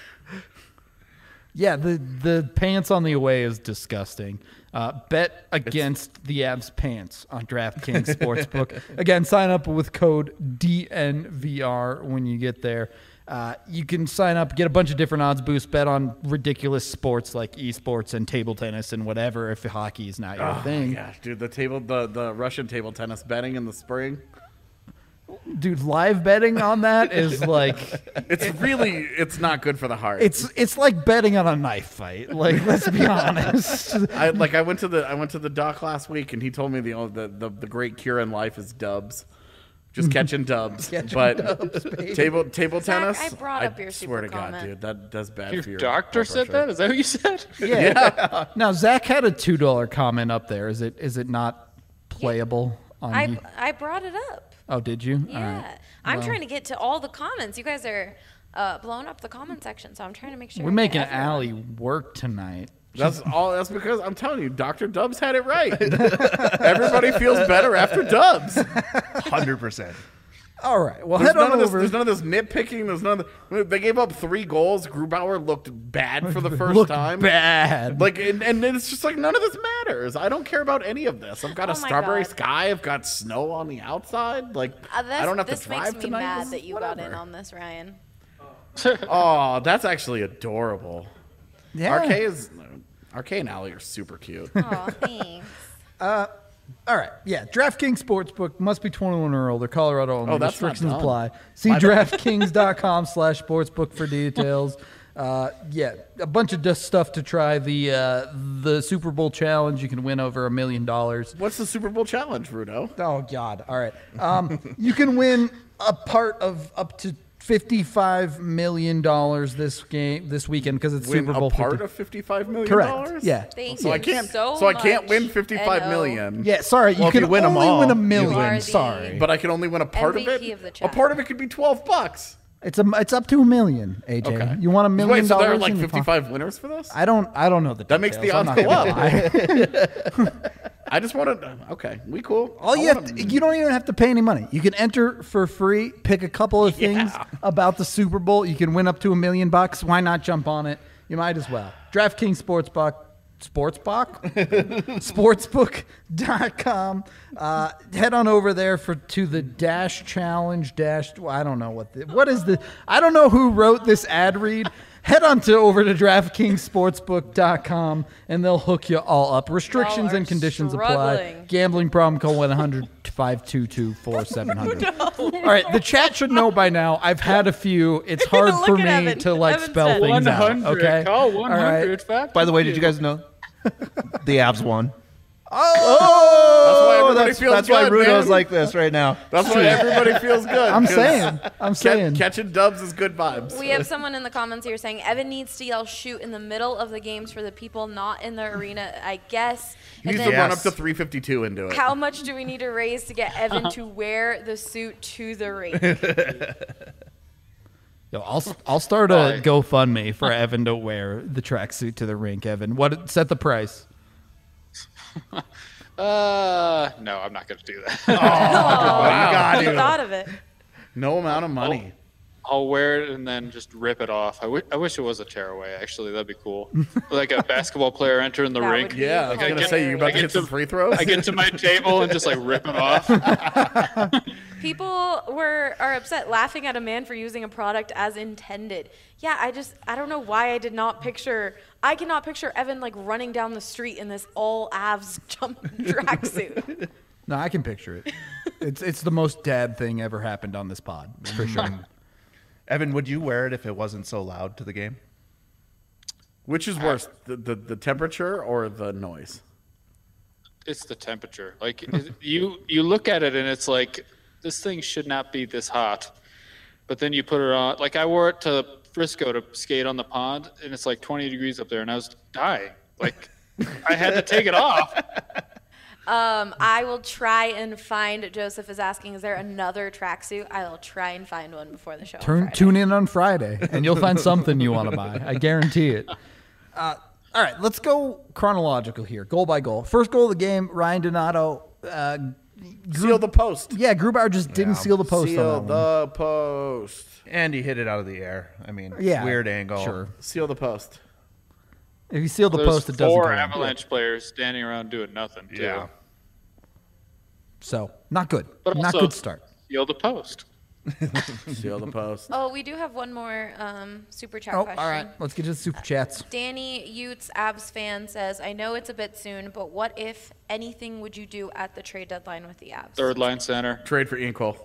Yeah, the the pants on the away is disgusting. Uh, bet against the Avs pants on DraftKings Sportsbook. Again, sign up with code D N V R when you get there. Uh, you can sign up, get a bunch of different odds boosts, bet on ridiculous sports like esports and table tennis and whatever if hockey is not your Oh thing. my gosh, dude, the table, the, the Russian table tennis betting in the spring, Dude, live betting on that is like it's really, it's not good for the heart. it's it's like betting on a knife fight. Like, let's be honest. I like I went to the I went to the doc last week and he told me the the the, the great cure in life is dubs. Just catching dubs, Catching but dubs, baby. table table Zach, tennis. I brought up your swear super to God, comment. dude, that does bad Your for your doctor blood said pressure. that? Is that what you said? Yeah. Now Zach had a two dollar comment up there. Is it is it not playable on I you? I brought it up. Oh, did you? All Yeah. right. I'm Well, trying to get to all the comments. You guys are uh, blowing up the comment section, so I'm trying to make sure. We're I get making everyone. Allie work tonight. That's all. That's because I'm telling you, Doctor Dubs had it right. Everybody feels better after Dubs. one hundred percent. All right. Well, There's head none, on of this, over. there's none of this nitpicking. There's none of the, they gave up three goals. Grubauer looked bad for the first Looked time. bad. Like, and, and it's just like none of this matters. I don't care about any of this. I've got Oh a my strawberry God. sky. I've got snow on the outside. Like, Uh, this, I don't have this to drive makes me tonight. mad This that is you got in whatever. on this, Ryan. Oh, that's actually adorable. yeah. R K is R K and Allie are super cute. Oh, thanks. All right. Yeah. DraftKings Sportsbook must be twenty-one or older. Colorado only. Oh, that's not Restrictions dumb. apply. See DraftKings.com slash sportsbook for details. Uh, yeah, a bunch of just stuff to try. The uh, the Super Bowl challenge. You can win over a million dollars. What's the Super Bowl challenge, Rudo? Oh God! All right. Um, you can win a part of up to fifty-five million dollars this game this weekend because it's Win Super Bowl. a part fifty. of fifty-five million Correct. dollars? Yeah. Thank So you I can't. so So I can't much, win fifty-five N O. million. Yeah. Sorry, Well, you if can you win 'em only all, win a you million. win. Sorry. But I can only win a part M V of P it. of the a chat. part of it could be twelve bucks. It's a it's up to a million. A J, Okay. you want a million Wait, so there are dollars like in your pocket? fifty-five winners for this? I don't I don't know the That makes the details. I'm odds not go gonna up. lie. I just want to. Okay, we cool. All I you have wanna- to, you don't even have to pay any money. You can enter for free, pick a couple of things Yeah. about the Super Bowl. You can win up to a million bucks. Why not jump on it? You might as well. DraftKings Sportsbook. Sportsbook? Sportsbook dot com. Uh, head on over there for to the dash challenge dash. well, I don't know what the, what is the I don't know who wrote this ad read. Head on to over to DraftKings Sportsbook dot com and they'll hook you all up. Restrictions Y'all are and conditions apply. struggling. Gambling problem, call one eight hundred five two two four seven zero zero. All right, the chat should know by now. I've had a few. It's hard Look for at me Evan. to like Evan spell said. things out. one hundred. Okay, Call one All right. hundred. Fact. By the way, did you guys know the Avs won? Oh, that's feels that's why good, Rudo's man. like this right now. That's why everybody feels good. I'm 'cause saying. I'm ca- saying. catching dubs is good vibes. We have someone in the comments here saying Evan needs to yell shoot in the middle of the games for the people not in the arena, I guess. He And needs then to run Yes. up to three fifty-two and do it. how much do we need to raise to get Evan to wear the suit to the rink? Yo, I'll I'll start a Why? GoFundMe for Evan to wear the tracksuit to the rink. Evan, what set the price? Uh, no, I'm not going to do that. Oh, Wow. you thought of it. No amount of money. I'll wear it and then just rip it off. I wi- I wish it was a tearaway, actually. That'd be cool. Like a basketball player entering the That rink. would be Yeah, I was I gonna get- say you're about I to get hit some to- free throws. I get to my table and just like rip it off. People were are upset laughing at a man for using a product as intended. Yeah, I just I don't know why I did not picture I cannot picture Evan like running down the street in this all Avs jump tracksuit. No, I can picture it. It's it's the most dad thing ever happened on this pod for sure. Evan, would you wear it if it wasn't so loud to the game? Which is worse, the, the the temperature or the noise? It's the temperature. Like it- you, you look at it and it's like this thing should not be this hot, but then you put it on. Like I wore it to Frisco to skate on the pond, and it's like twenty degrees up there, and I was dying. Like I had to take it off. Um, I will try and find. Joseph is asking, is there another tracksuit? I will try and find one before the show. on Turn Friday. tune in on Friday and you'll find something you want to buy. I guarantee it. Uh, all right, let's go chronological here, goal by goal. First goal of the game, Ryan Donato. Uh, Seal the post. yeah, Grubauer just didn't seal the post Seal on that one. the post. And he hit it out of the air. I mean, Yeah, weird angle. Sure. Seal the post. If you seal the There's post, it doesn't four go in. Avalanche players standing around doing nothing. Too. Yeah. So not good. But Not also, good start. Seal the post. Seal the post. Oh, we do have one more um, super chat Oh, question. all right. Let's get to the super chats. Danny Utes, Abs fan, says, I know it's a bit soon, but what, if anything, would you do at the trade deadline with the Abs? Third line center. Trade for Ian Cole.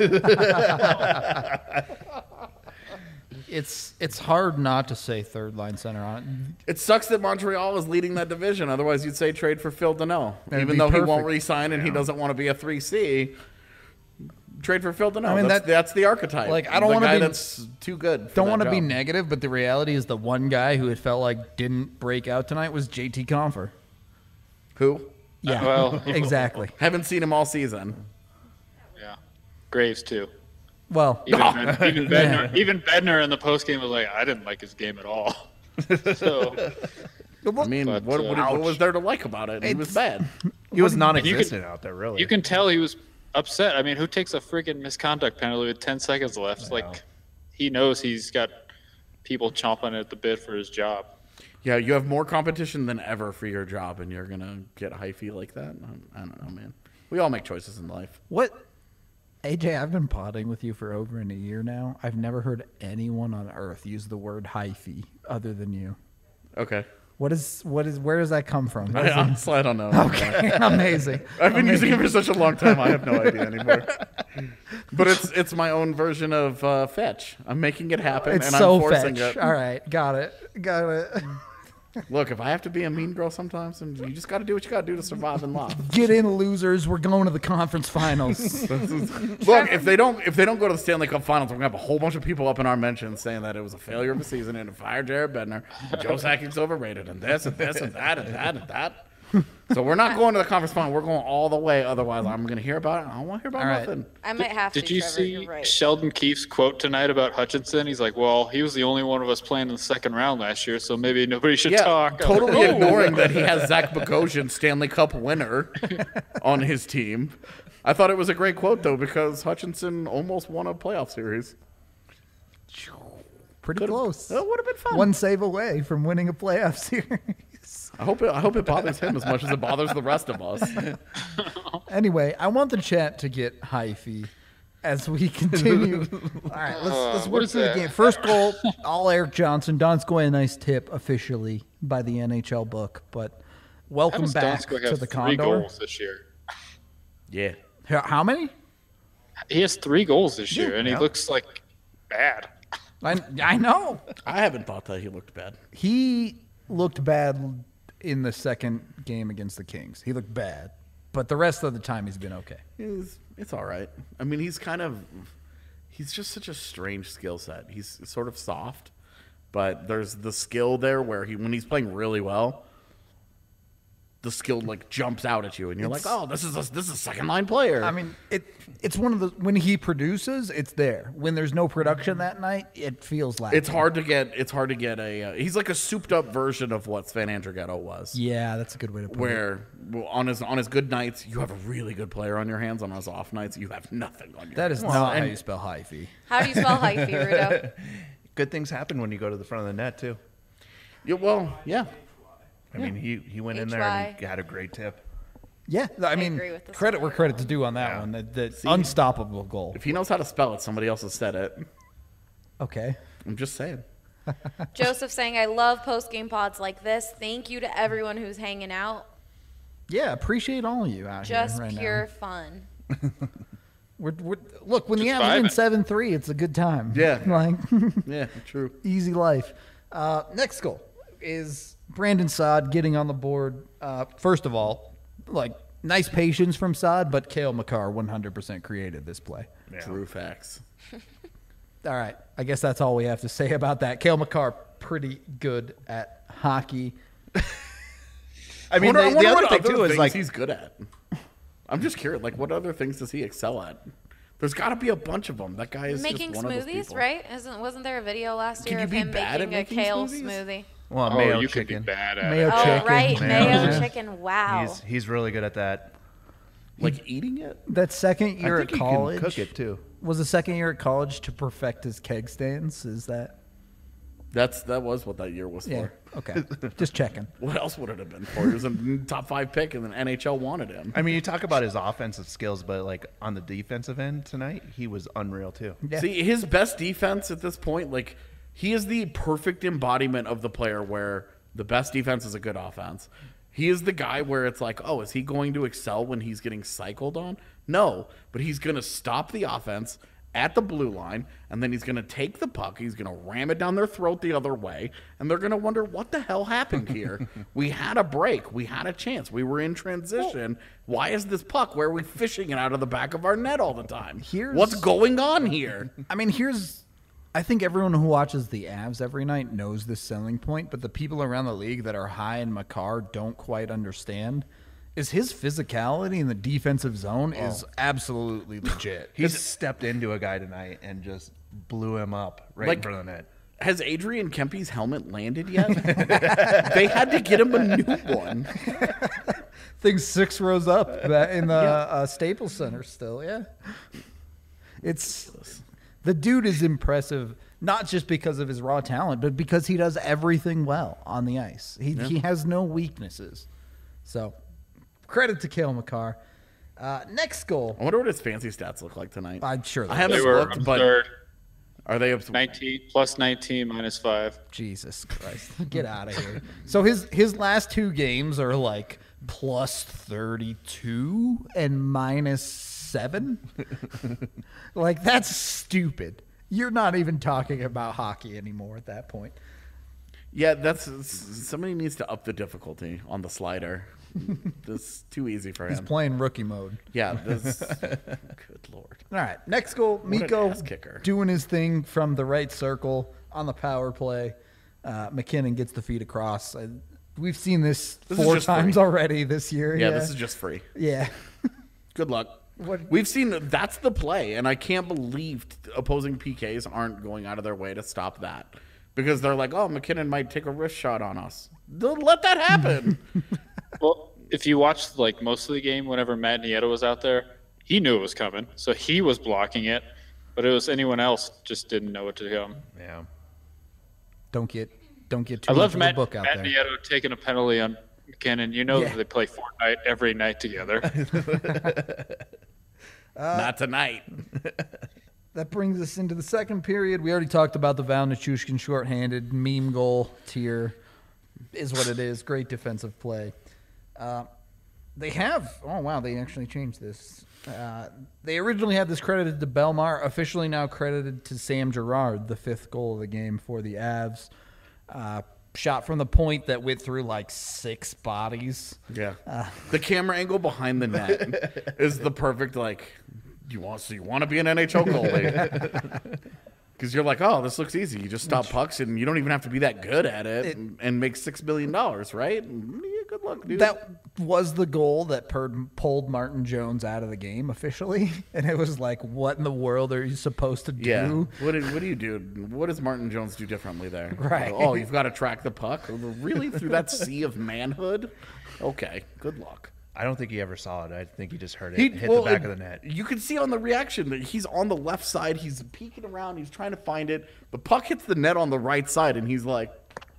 It's it's hard not to say third line center on it. It sucks that Montreal is leading that division. Otherwise, you'd say trade for Phil Danault. That'd Even be though he perfect. won't re-sign and he doesn't want to be a three C, trade for Phil Danault. I mean, that's, that- that's the archetype. like, I don't The wanna guy be- that's too good. For Don't that want to be job. negative, but the reality is the one guy who it felt like didn't break out tonight was J T Confer. Who? Yeah, well- exactly. Haven't seen him all season. Yeah. Graves too. Well, Even, Ben- even Bednar, even Bednar in the post game was like, I didn't like his game at all. So I mean, But, what, uh, what, what was there to like about it? He was bad. He was you non-existent can- out there, really. you can tell he was upset. I mean, who takes a freaking misconduct penalty with ten seconds left? Like, he knows he's got people chomping at the bit for his job. Yeah, you have more competition than ever for your job, and you're gonna get hyphy like that. I don't know, man. We all make choices in life. what? A J, I've been potting with you for over in a year now. I've never heard anyone on earth use the word hyphy other than you. Okay. What is what is where does that come from? I, honestly, I don't know. Okay, amazing. I've been using it for such a long time. I have no idea anymore. But it's it's my own version of uh, fetch. I'm making it happen, It's and so I'm forcing fetch. it. All right, got it, got it. Look, if I have to be a mean girl sometimes, then you just got to do what you got to do to survive in life. Get in, losers. We're going to the conference finals. Look, if they don't if they don't go to the Stanley Cup Finals, we're gonna have a whole bunch of people up in our mentions saying that it was a failure of the season and to fire Jared Bednar, Joe Sakic's overrated, and this and this and that and that and that. So we're not going to the conference final. We're going all the way. Otherwise, I'm going to hear about it. I don't want to hear about All right. nothing. I might have Did to. you Trevor, see you're right. Sheldon Keefe's quote tonight about Hutchinson? He's like, well, he was the only one of us playing in the second round last year, so maybe nobody should Yeah, talk. I'm totally like, "Oh." ignoring that he has Zach Bogosian, Stanley Cup winner, on his team. I thought it was a great quote, though, because Hutchinson almost won a playoff series. Pretty Could've- close. That would have been fun. One save away from winning a playoff series. I hope it, I hope it bothers him as much as it bothers the rest of us. Anyway, I want the chat to get hyphy as we continue. All right, let's, let's Uh, what work is through the that? game. First goal, all Eric Johnson. Donskoy, a nice tip officially by the N H L book, but How welcome does back Donskoy to have the three Condor. goals this year? Yeah. How how many? He has three goals this year, and he Yeah. looks like bad. I, I know. I haven't thought that he looked bad. He looked bad in the second game against the Kings. He looked bad, but the rest of the time he's been okay. It's, it's all right. I mean, he's kind of, he's just such a strange skill set. He's sort of soft, but there's the skill there where he, when he's playing really well, the skill like jumps out at you, and you're It's- like, oh, this is a, this is a second line player. I mean, it it's one of the when he produces, it's there. When there's no production that night, it feels like it's hard to get. It's hard to get a. Uh, he's like a souped up version of what Sven Andrighetto was. Yeah, that's a good way to put it. Where well, on his on his good nights you have a really good player on your hands. On his off nights you have nothing on your. That is hands. not how and- you spell hyphy. How do you spell hyphy, Rudo? Good things happen when you go to the front of the net too. Yeah, well, yeah. I mean, he he went in there and he had a great tip. Yeah, I mean, agree with this credit one. where credit's due on that Yeah. one. The, the unstoppable goal. If he knows how to spell it, somebody else has said it. Okay. I'm just saying. Joseph saying, I love post game pods like this. Thank you to everyone who's hanging out. Yeah, appreciate all of you out Just here right pure now. fun. We're, we're, look, when the Just Avs win vibing. seven three, it's a good time. Yeah. like Yeah, true. easy life. Uh, next goal is Brandon Saad getting on the board. Uh, first of all, like nice patience from Saad, but Cale Makar one hundred percent created this play. True facts. All right, I guess that's all we have to say about that. Cale Makar, pretty good at hockey. I mean, wonder- I the, the wonder other what thing other too is things like he's good at. I'm just curious. Like, what other things does he excel at? There's got to be a bunch of them. That guy is Making just one of those smoothies, people. right? Isn't wasn't there a video last Can year you of be him bad at making a making kale smoothies? smoothie? well, Oh, mayo you chicken. could be bad at Mayo it. Oh, chicken. right, Mayo mayo chicken. chicken. Wow. He's he's really good at that. Like eating it. That second year I at think he college can cook it too. was the second year at college to perfect his keg stands. Is that? That's that was what that year was Yeah. for. Okay. Just checking. What else would it have been for? He was a top five pick, and then N H L wanted him. I mean, you talk about his offensive skills, but like on the defensive end tonight, he was unreal too. Yeah. See, his best defense at this point, like he is the perfect embodiment of the player where the best defense is a good offense. He is the guy where it's like, oh, is he going to excel when he's getting cycled on? No, but he's going to stop the offense at the blue line, and then he's going to take the puck, he's going to ram it down their throat the other way, and they're going to wonder, what the hell happened here? We had a break. We had a chance. We were in transition. Why is this puck? Where are we fishing it out of the back of our net all the time? Here's- What's going on here? I mean, here's. I think everyone who watches the Avs every night knows this selling point, but the people around the league that are high in Makar don't quite understand. Is his physicality in the defensive zone is absolutely legit. He just stepped into a guy tonight and just blew him up right in Like- front of the net. Has Adrian Kempe's helmet landed yet? They had to get him a new one. Things six rows up in the uh, Staples Center still, yeah. It's the dude is impressive, not just because of his raw talent, but because he does everything well on the ice. He he has no weaknesses. So, credit to Cale Makar. Uh, next goal, I wonder what his fancy stats look like tonight. I'm sure. I They haven't They were looked, but absurd. are they up? nineteen plus nineteen minus five. Jesus Christ, get out of here. So his his last two games are like plus thirty-two and minus seven. Like that's stupid. You're not even talking about hockey anymore at that point. Yeah, that's somebody needs to up the difficulty on the slider. This is too easy for He's him. playing rookie mode. Yeah, this. Good lord. All right, next goal, an Miko ass kicker. doing his thing from the right circle on the power play. Uh, McKinnon gets the feed across. Uh, we've seen this, This is four just times free. already this year. Yeah, Yeah, this is just free. yeah. Good luck. What- We've seen that's the play, and I can't believe opposing P Ks aren't going out of their way to stop that because they're like, "Oh, McKinnon might take a wrist shot on us." Don't let that happen. Well, if you watched like most of the game, whenever Matt Nieto was out there, he knew it was coming, so he was blocking it. But it was anyone else just didn't know what to do. Yeah. Don't get don't get too I much loved of a Matt, book out Matt there. Nieto taking a penalty on McKinnon. You know Yeah. that they play Fortnite every night together. Not tonight. That brings us into the second period. We already talked about the Val Nichushkin shorthanded meme goal tier. Is what it is. Great defensive play. Uh, they have. Oh wow, they actually changed this. Uh, they originally had this credited to Belmar. Officially now credited to Sam Girard, the fifth goal of the game for the Avs. Uh, shot from the point that went through like six bodies. Yeah. The camera angle behind the net is the perfect like you want so you want to be an N H L goalie. Because you're like, oh, this looks easy. You just stop pucks, and you don't even have to be that good at it, It- and, and make six billion dollars, right? And, yeah, good luck, dude. That was the goal that per- pulled Martin Jones out of the game officially, and it was like, what in the world are you supposed to do? yeah. What do, what do you do? What does Martin Jones do differently there? Right. Oh, you've got to track the puck. Really, through that sea of manhood? Okay. Good luck. I don't think he ever saw it. I think he just heard it He hit well, the back it- of the net. You can see on the reaction that he's on the left side. He's peeking around. He's trying to find it. The puck hits the net on the right side, and he's like,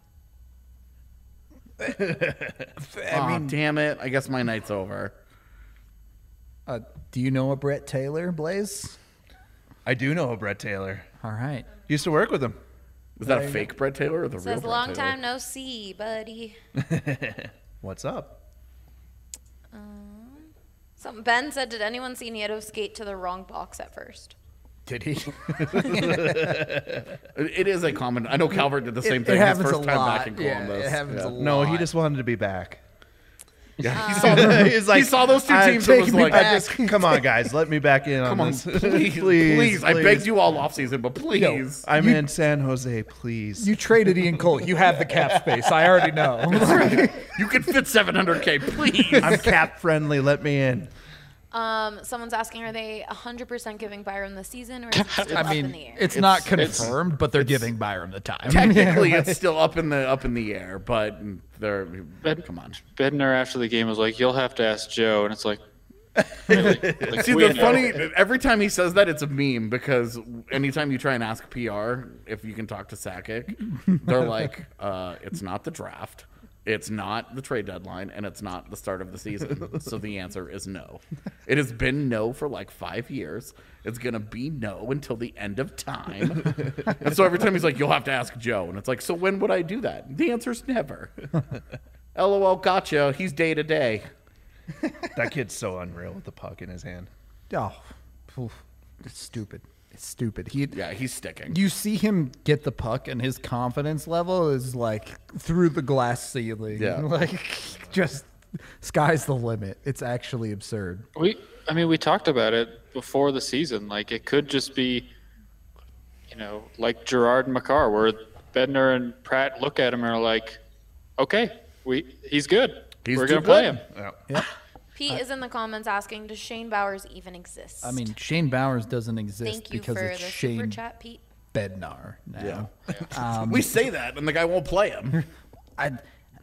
"I mean, damn it! I guess my night's over." Uh, do you know a Brett Taylor, Blaze? I do know a Brett Taylor. All right. Used to work with him. Was that a fake Brett Taylor or the real Says Brett long Taylor? time no see, buddy. What's up? Something Ben said, did anyone see Nieto skate to the wrong box at first? Did he? It it is a common. I know Calvert did the same it thing his happens first a time lot. back in Yeah, Columbus. it happens yeah. a No, he lot. just wanted to be back. Yeah, he saw, the, He's like, he saw those two "I'm teams and was taking me like, back." Come on, guys, let me back in "Come on on, this. please, please, I begged you all off season, but please." I'm in San Jose, please. You traded Ian Cole. You have the cap space. I already know. You can fit seven hundred K, please. I'm cap friendly. Let me in. Um, someone's asking, are they one hundred percent giving Byram the season, or is it still I up in mean, the air? it's not It's- confirmed, but they're giving Byram the time. Technically, it's still up in the up in the air, but they're Ben- come on. Bednar after the game was like, "You'll have to ask Joe," and it's like, really? Like, See, we the know. funny every time he says that, it's a meme because anytime you try and ask P R if you can talk to Sakic, they're like, uh, "It's not the draft, it's not the trade deadline, and it's not the start of the season." So the answer is no. It has been no for like five years. It's gonna be no until the end of time. And so every time he's like, "You'll have to ask Joe," and it's like, "So when would I do that?" The answer's never. LOL, gotcha. He's day to day. That kid's so unreal with the puck in his hand. Oh, oof. It's stupid. It's stupid. He, Yeah, he's sticking. you see him get the puck, and his confidence level is like through the glass ceiling. Yeah. Like, just sky's the limit. It's actually absurd. We, I mean, we talked about it before the season. Like, it could just be, you know, like Gerard and Makar, where Bednar and Pratt look at him and are like, "Okay, we, he's good. He's We're too gonna play good." him." Yeah. Pete is in the comments asking, does Shane Bowers even exist? I mean, Shane Bowers doesn't exist thank you because for the it's super Shane chat, Pete. Bednar now. Yeah. we say that, and the guy won't play him. I,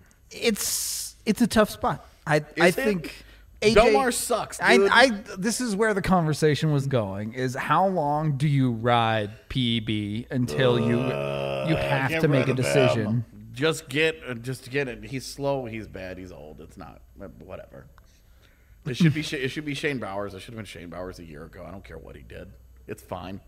it's it's a tough spot. I I it? think A J, Belmar sucks, I, dude. I this is where the conversation was going. Is how long do you ride P E B until you you have get to make a rid of decision? him. Just get, uh, just get it. He's slow. He's bad. He's old. It's not uh, whatever. It should be. Sh- It should be Shane Bowers. It should have been Shane Bowers a year ago. I don't care what he did. It's fine.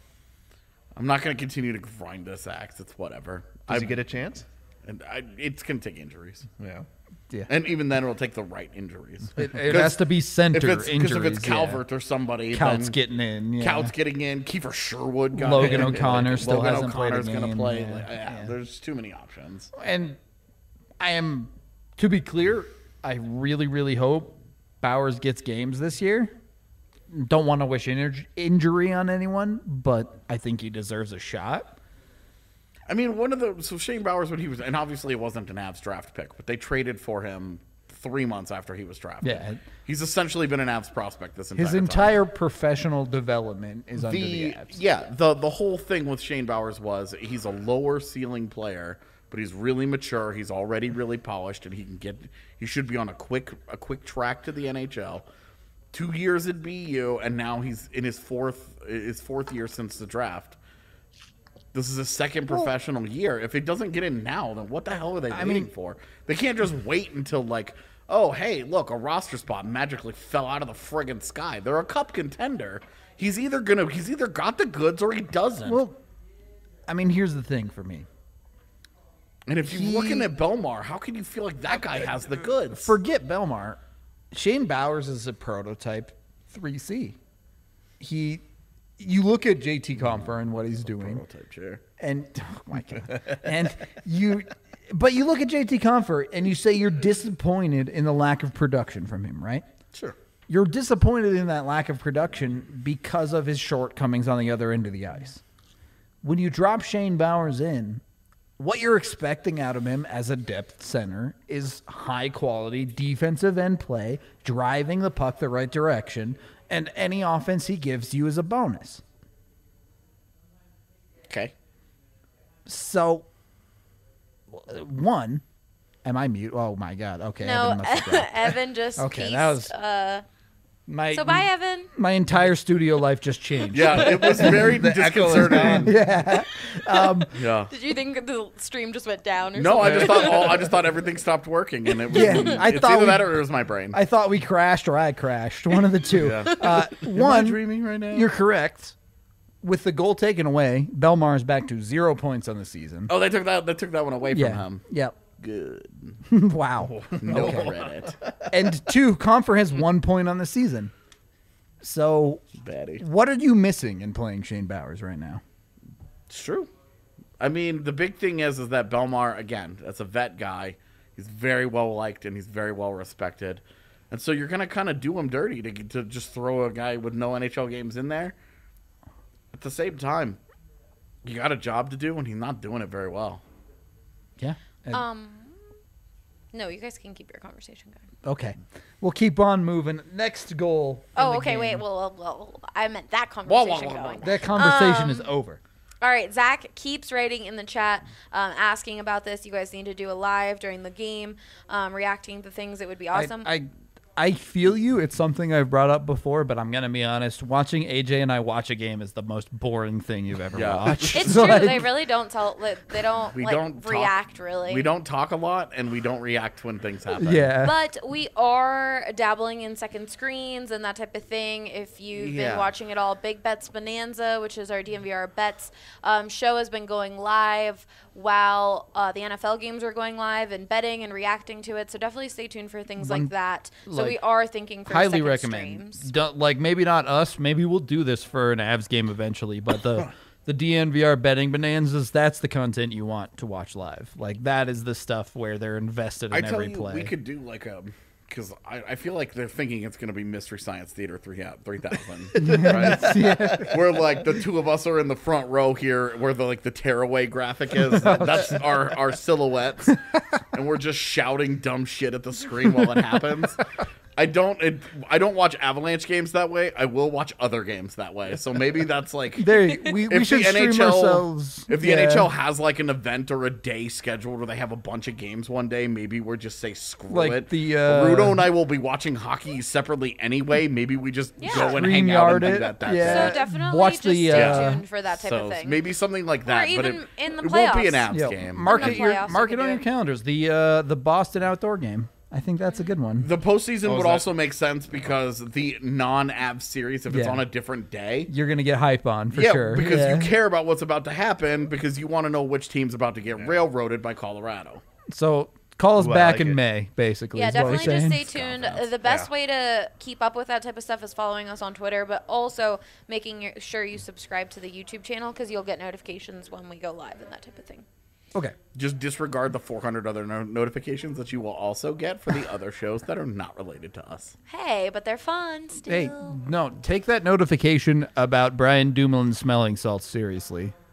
I'm not going to continue to grind this axe. It's whatever. Does I he get a chance? And I, it's going to take injuries, Yeah. Yeah, and even then, it'll take the right injuries. it, it has to be center If it's injuries. because if it's yeah. Calvert or somebody, Coutts then getting in. Yeah. Coutts getting in. Kiefer Sherwood got Logan in. O'Connor still Logan hasn't played a O'Connor's gonna game. play. Yeah, Like, yeah, yeah. There's too many options. And I am, to be clear, I really, really hope Bowers gets games this year. Don't want to wish inj- injury on anyone, but I think he deserves a shot. I mean, one of the so Shane Bowers when he was, and obviously it wasn't an Avs draft pick, but they traded for him three months after he was drafted. Yeah. He's essentially been an Avs prospect this entire His time. entire professional development is under the Avs. Yeah, the the whole thing with Shane Bowers was he's a lower ceiling player, but he's really mature. He's already really polished, and he can get. He should be on a quick a quick track to the N H L. Two years at B U, and now he's in his fourth his fourth year since the draft. This is his second professional year. If it doesn't get in now, then what the hell are they I waiting mean- for? They can't just wait until like, oh hey, look, a roster spot magically fell out of the friggin' sky. They're a cup contender. He's either gonna he's either got the goods or he doesn't. Well, I mean, here's the thing for me. and if you're he- looking at Belmar, how can you feel like that guy has the goods? Forget Belmar. Shane Bowers is a prototype three C. He, you look at J T Compher and what he's doing, Prototype chair. and oh my god, and you, but you look at J T Compher and you say you're disappointed in the lack of production from him, right? Sure. You're disappointed in that lack of production because of his shortcomings on the other end of the ice. When you drop Shane Bowers in, what you're expecting out of him as a depth center is high quality defensive end play, driving the puck the right direction, and any offense he gives you is a bonus. Okay. So, one, am I mute? Oh my God. Okay. No, Evan must have dropped. Evan just Okay, pieced, that was- uh, My, so bye, Evan. my entire studio life just changed. Yeah, it was very disconcerting. Yeah. Um, Yeah. Did you think the stream just went down or No, something? I just thought all, I just thought everything stopped working, and it was. Yeah, I it's thought either we- that or it was my brain. I thought we crashed or I crashed. One of the two. Yeah. Uh, one, dreaming right now? you're correct. With the goal taken away, Belmar is back to zero points on the season. Oh, they took that. They took that one away from yeah. him. Yep. Good. Wow. No credit. And two, Compher has one point on the season. So, Batty. what are you missing in playing Shane Bowers right now? It's true. I mean, the big thing is, is that Belmar, again, that's a vet guy. He's very well liked and he's very well respected. And so you're going to kind of do him dirty to, to just throw a guy with no N H L games in there. At the same time, you got a job to do and he's not doing it very well. Yeah. And- Um, no, you guys can keep your conversation going. okay. We'll keep on moving. Next goal. in Oh, the okay, game. wait. Well, well, well, I meant that Whoa, whoa, conversation whoa, whoa. going. That conversation Um, is over. All right, Zach keeps writing in the chat, um, asking about this. You guys need to do a live during the game, um, reacting to things. It would be awesome. I, I I feel you. It's something I've brought up before, but I'm gonna be honest. Watching A J and I watch a game is the most boring thing you've ever Yeah. watched. it's So, true. like, They really don't tell. like, They don't We like don't talk- react really. We don't talk a lot and we don't react when things happen. Yeah. But we are dabbling in second screens and that type of thing. If you've Yeah. been watching it all, Big Bets Bonanza, which is our D M V R bets um, show, has been going live while uh, the N F L games are going live and betting and reacting to it. So definitely stay tuned for things One- like that. So like, we are thinking for highly second recommend. streams. Don't, like maybe not us. Maybe we'll do this for an Avs game eventually. But the the D N V R betting bonanzas, that's the content you want to watch live. Like that is the stuff where they're invested in I tell every you, play. we could do like a, because I, I feel like they're thinking it's going to be Mystery Science Theater three thousand, right? Where like the two of us are in the front row here, where the like the tearaway graphic is. That's our our silhouettes, and we're just shouting dumb shit at the screen while it happens. I don't it, I don't watch Avalanche games that way. I will watch other games that way. So maybe that's like there, we, we if should the stream N H L ourselves. if the yeah. N H L has like an event or a day scheduled where they have a bunch of games one day, maybe we're just say screw Like it. the, uh, Rudo and I will be watching hockey separately anyway. Maybe we just Yeah. go and hang out and StreamYard do it, that. That yeah. day. So definitely watch just the, stay uh, tuned for that type So of thing. maybe something like that, but even it, in the it won't be an playoffs. Avs Yeah, game. mark In the it, your, playoffs, we mark it could on do your it. calendars. The uh, the Boston outdoor game. I think that's a good one. The postseason Oh, is would that- also make sense because the non-Avs series, if it's Yeah. on a different day, You're gonna get hype on for yeah, sure. because Yeah. you care about what's about to happen because you want to know which team's about to get railroaded by Colorado. So call us Well, back like in it. May, basically. Yeah, is what we're definitely just saying. stay tuned. Confidence. The best Yeah. way to keep up with that type of stuff is following us on Twitter, but also making your- sure you subscribe to the YouTube channel because you'll get notifications when we go live and that type of thing. Okay. Just disregard the four hundred other no- notifications that you will also get for the other shows that are not related to us. Hey, but they're fun still. Hey, no, take that notification about Brian Dumoulin smelling salts seriously.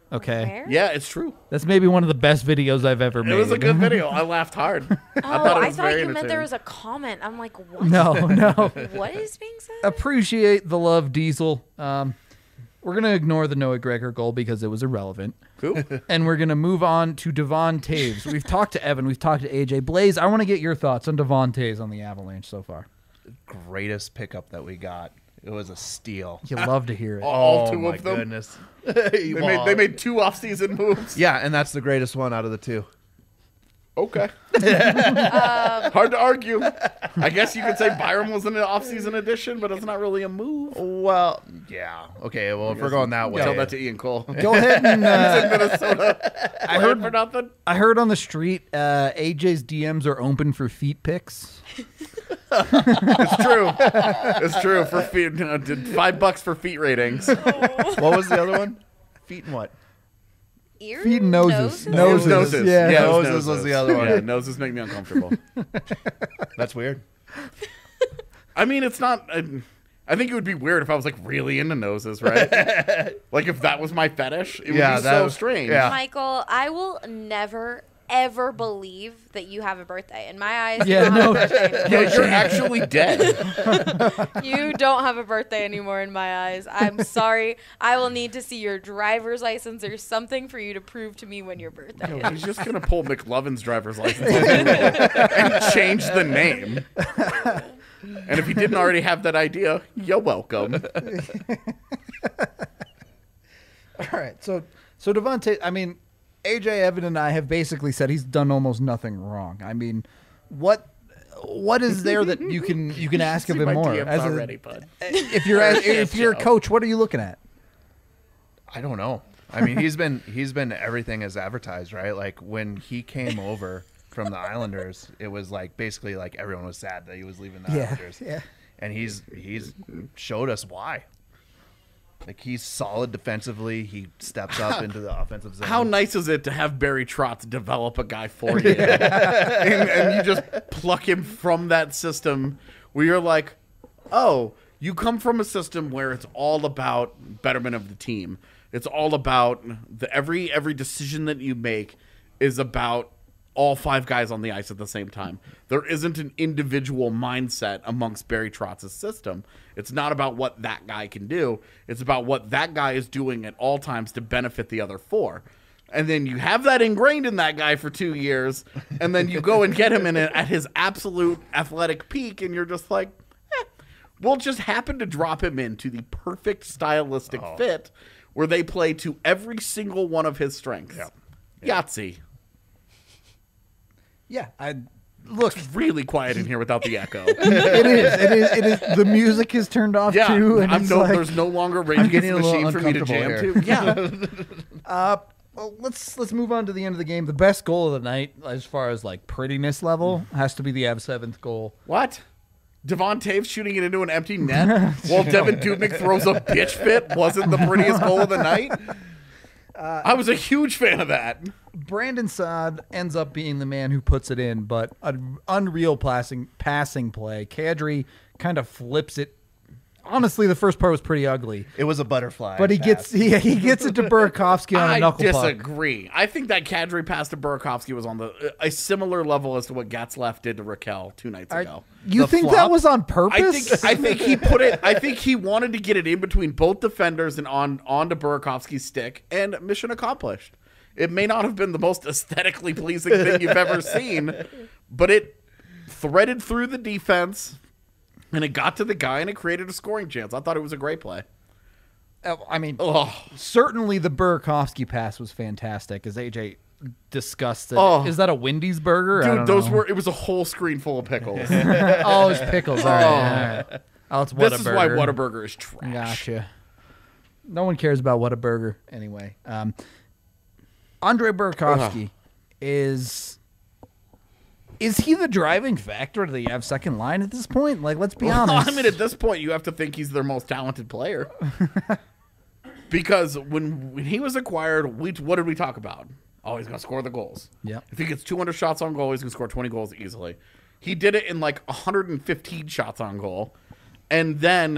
Okay. Where? Yeah, it's true. That's maybe one of the best videos I've ever made. It was a good video. I laughed hard. Oh, I thought it I was thought very you meant there entertaining. was a comment. I'm like, what? No, no. What is being said? Appreciate the love, Diesel. Um, we're going to ignore the Noah Gregor goal because it was irrelevant. Who? And we're going to move on to Devon Taves. We've talked to Evan. We've talked to A J. Blaze, I want to get your thoughts on Devon Taves on the Avalanche so far. Greatest pickup that we got. It was a steal. You love to hear it. All oh two my of them? goodness. They made, they made two off-season moves. Yeah, and that's the greatest one out of the two. Okay. Hard to argue. I guess you could say Byram was in an off-season addition, but it's not really a move. Well, yeah. Okay, well, if we're going that way. Tell that to Ian Cole. Go ahead and uh, Minnesota. I heard for nothing. I heard on the street uh, A J's D Ms are open for feet pics. It's true. It's true. For feet, you know, did five bucks for feet ratings. What was the other one? Feet and what? Ears? Feet and noses. Noses? Noses. Noses. Yeah. Yeah, it was Noses was the other one. Yeah, noses make me uncomfortable. That's weird. I mean, it's not. I, I think it would be weird if I was like really into noses, right? Like if that was my fetish, it Yeah, would be that so was- strange. yeah. Michael, I will never, ever believe that you have a birthday. In my eyes, Yeah, you don't no. have a birthday anymore. Yeah, you're actually dead. You don't have a birthday anymore in my eyes. I'm sorry. I will need to see your driver's license or something for you to prove to me when your birthday is. He's just gonna pull McLovin's driver's license off Google and change the name. And if he didn't already have that idea, you're welcome. All right. So, so Devon Taves, I mean, A J, Evan, and I have basically said he's done almost nothing wrong. I mean, what what is there that you can you can ask of See him my more? D Ms As a- already, bud. if you're as- if you're a coach, what are you looking at? I don't know. I mean, he's been he's been everything as advertised, right? Like when he came over from the Islanders, it was like basically like everyone was sad that he was leaving the Islanders. yeah. And he's he's showed us why. Like he's solid defensively. He steps up into the offensive zone. How nice is it to have Barry Trotz develop a guy for you, and, and you just pluck him from that system where you're like, oh, you come from a system where it's all about betterment of the team. It's all about the every every decision that you make is about all five guys on the ice at the same time. There isn't an individual mindset amongst Barry Trotz's system. It's not about what that guy can do. It's about what that guy is doing at all times to benefit the other four. And then you have that ingrained in that guy for two years, and then you go and get him in a, at his absolute athletic peak, and you're just like, eh, we'll just happen to drop him into the perfect stylistic fit where they play to every single one of his strengths. Yahtzee. Yeah, I look. It's really quiet in here without the echo. It is. It is. It is. The music is turned off Yeah, too, and I'm it's no, like, there's no longer Rage getting Against the a little Machine for me to uncomfortable jam here. to. Yeah. Uh, well, let's let's move on to the end of the game. The best goal of the night, as far as like prettiness level, has to be the Avs' seventh goal. What? Devon Taves shooting it into an empty net while Devin Dubnyk throws a bitch fit wasn't the prettiest goal of the night? I was a huge fan of that. Brandon Saad ends up being the man who puts it in, but an unreal passing passing play. Kadri kind of flips it. Honestly, the first part was pretty ugly, It was a butterfly. but he gets pass. he, he gets it to Burakovsky on a I knuckle puck. disagree. I think that Kadri pass to Burakovsky was on the a similar level as to what Getzlaf did to Raquel two nights Are- ago. you The think that flop? was on I purpose? think I think he put it. I think he wanted to get it in between both defenders and on onto Burakovsky's stick, and mission accomplished. It may not have been the most aesthetically pleasing thing you've ever seen, but it threaded through the defense, and it got to the guy, and it created a scoring chance. I thought it was a great play. Uh, I mean, Oh, certainly the Burakovsky pass was fantastic, as A J discussed it. Oh. Is that a Wendy's burger? I dude, don't those know. were. It was a whole screen full of pickles. Oh, it's pickles. All right. All right. Oh, it's This is why Whataburger. Whataburger is trash. Gotcha. No one cares about Whataburger anyway. Um, Andre Burakovsky is is he the driving factor to the Avs second line at this point? Like, let's be Well, honest. I mean, at this point, you have to think he's their most talented player. Because when, when he was acquired, we what did we talk about? Oh, he's going to score the goals. Yep. If he gets two hundred shots on goal, he's going to score twenty goals easily. He did it in like one hundred fifteen shots on goal. And then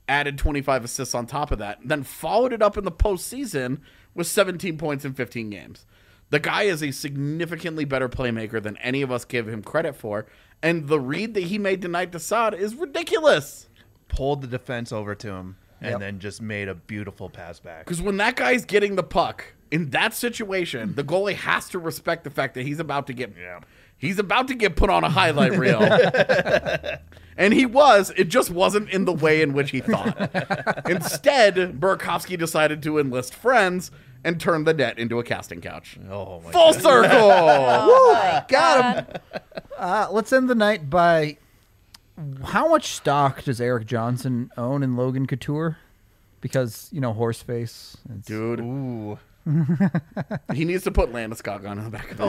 added twenty-five assists on top of that, then followed it up in the postseason with seventeen points in fifteen games. The guy is a significantly better playmaker than any of us give him credit for, and the read that he made tonight to Saad is ridiculous. Pulled the defense over to him and Yep. then just made a beautiful pass back. Because when that guy's getting the puck in that situation, the goalie has to respect the fact that he's about to get Yeah. he's about to get put on a highlight reel. And he was. It just wasn't in the way in which he thought. Instead, Burakovsky decided to enlist friends and turn the net into a casting couch. Oh my Full God. circle. Oh my Got God. Uh, let's end the night by how much stock does Eric Johnson own in Logan Couture? Because, you know, horse face. It's- Dude, Ooh. he needs to put Landeskog on the back of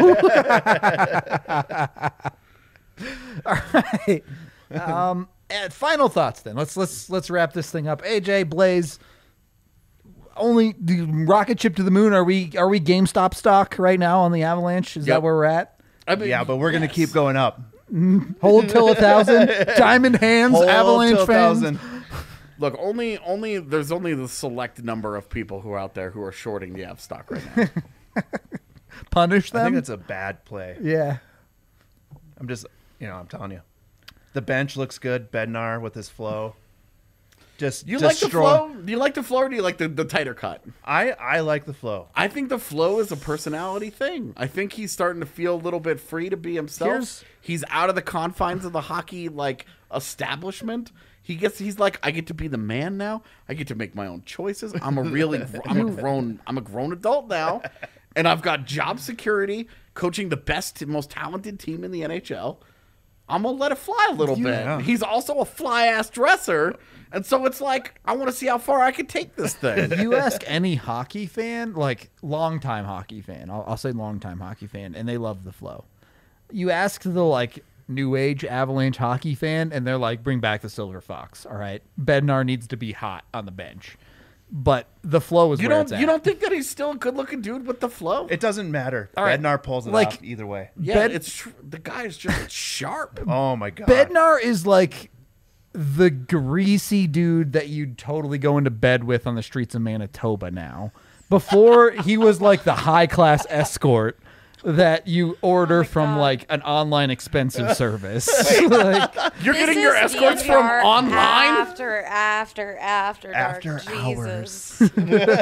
his jersey. um, and final thoughts then. Let's let's let's wrap this thing up. A J, Blaze, only the rocket ship to the moon. Are we are we GameStop stock right now on the Avalanche? Is Yep. that where we're at? I mean, Yeah, but we're going to yes. keep going up. Hold till a thousand. Diamond hands. Hold Avalanche till fans. thousand. Look, only only there's only the select number of people who are out there who are shorting the Av stock right now. Punish I them. think it's a bad play. yeah. I'm just, you know, I'm telling you. The bench looks good. Bednar with his flow. Just You like the destroy- flow? Do you like the flow or do you like the, the tighter cut? I, I like the flow. I think the flow is a personality thing. I think he's starting to feel a little bit free to be himself. Here's- he's out of the confines of the hockey like establishment. He gets he's like, I get to be the man now. I get to make my own choices. I'm a really I'm a grown I'm a grown adult now. And I've got job security, coaching the best most talented team in the N H L. I'm gonna let it fly a little Yeah. bit. He's also a fly ass dresser. And so it's like, I want to see how far I can take this thing. You ask any hockey fan, like longtime hockey fan, I'll, I'll say longtime hockey fan, and they love the flow. You ask the like new age Avalanche hockey fan, and they're like, bring back the Silver Fox. All right, Bednar needs to be hot on the bench, but the flow is You where don't it's at. you don't think that he's still a good looking dude with the flow? It doesn't matter. All right. Bednar pulls it Like- off either way. yeah, Bed- it's tr- the guy is just sharp. Oh my God. Bednar is like the greasy dude that you'd totally go into bed with on the streets of Manitoba now. Before he was like the high class escort that you order from God. like an online expensive service. Like, You're This getting your is escorts D from N V R online? After, after, after, After dark. hours. Jesus.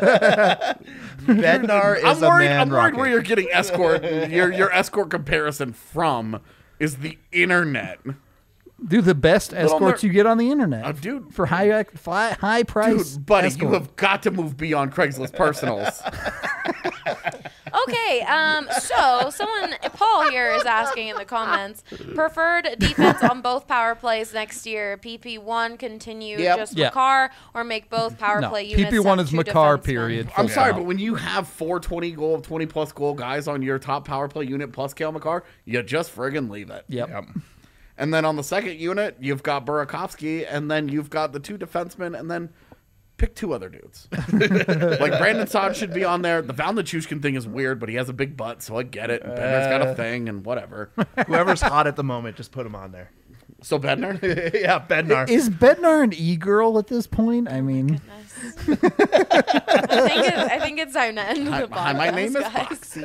Bednar is I'm a worried. man I'm worried rocket. where you're getting escort. your your escort comparison from is the internet. do the best escorts ner- you get on the internet. Uh, dude, for high fly, high price. dude, buddy, escort. you have got to move beyond Craigslist personals. Okay, um, so someone, Paul here is asking in the comments, preferred defense on both power plays next year. P P one continue Yep. just Yep. Makar or make both power No, play P units. P one send is two Makar, defensemen. period. I'm Full sorry, stop. but when you have four twenty goal, twenty plus goal guys on your top power play unit plus Kale McCarr, you just friggin' leave it. Yep. Yep. And then on the second unit, you've got Burakovsky, and then you've got the two defensemen, and then pick two other dudes. Like Brandon Saad should be on there. The Val Nichushkin thing is weird, but he has a big butt, so I get it. Bednar's got a thing, and whatever. Whoever's hot at the moment, just put him on there. So Bednar, Yeah, Bednar. Is Bednar an e-girl at this point? I mean, I think, it, I think it's time to end hi, the hi, my podcast, name is guys. Foxy.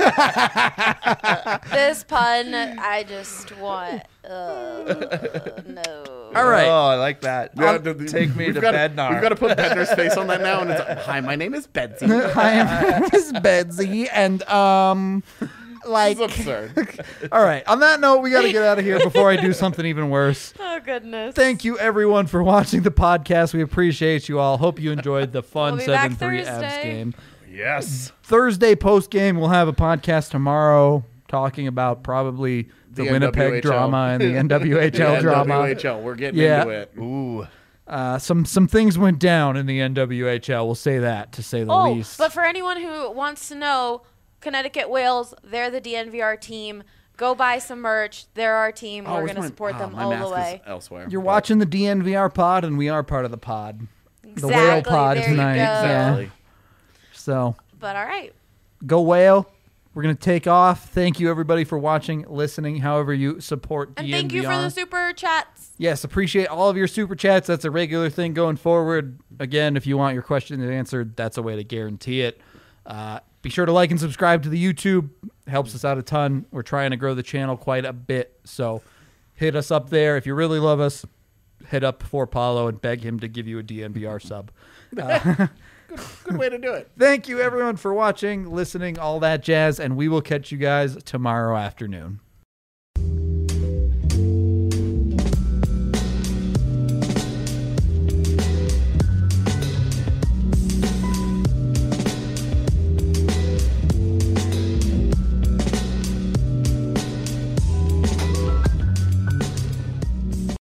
This pun, I just want. Uh, no. all right. Oh, I like that. Yeah, Um, the- the- Take me we've to gotta- Bednar. We've got to put Bednar's face on that now, and it's like, hi, my name is Betsy. Hi, I'm Miss Betsy, and um, like, It's absurd. all right. On that note, we got to get out of here before I do something even worse. Oh, goodness. Thank you, everyone, for watching the podcast. We appreciate you all. Hope you enjoyed the fun We'll be back seven three Avs Thursday. game. Yes. Thursday post game, we'll have a podcast tomorrow talking about probably the, The Winnipeg N W H L. drama and the N W H L Yeah, drama. W H L, we're getting Yeah. into it. Ooh. Uh, some some things went down in the N W H L. We'll say that to say the Oh, least. but for anyone who wants to know, Connecticut Whales, they're the D N V R team. Go buy some merch. They're our team. Oh, We're where's going to my- support oh, them my all mask the is way. elsewhere. You're but- watching the D N V R pod, and we are part of the pod. The whale Exactly, pod there you tonight. go. Yeah. Exactly. So But all right. go whale. We're going to take off. Thank you, everybody, for watching, listening, however you support And D thank and you for the Beyond. super chats. Yes, appreciate all of your super chats. That's a regular thing going forward. Again, if you want your question answered, that's a way to guarantee it. Uh, be sure to like and subscribe to the YouTube. Helps us out a ton. We're trying to grow the channel quite a bit. So hit us up there. If you really love us, hit up for Paulo and beg him to give you a D N V R sub. Uh, Good way to do it. thank you, everyone, for watching, listening, all that jazz, and we will catch you guys tomorrow afternoon.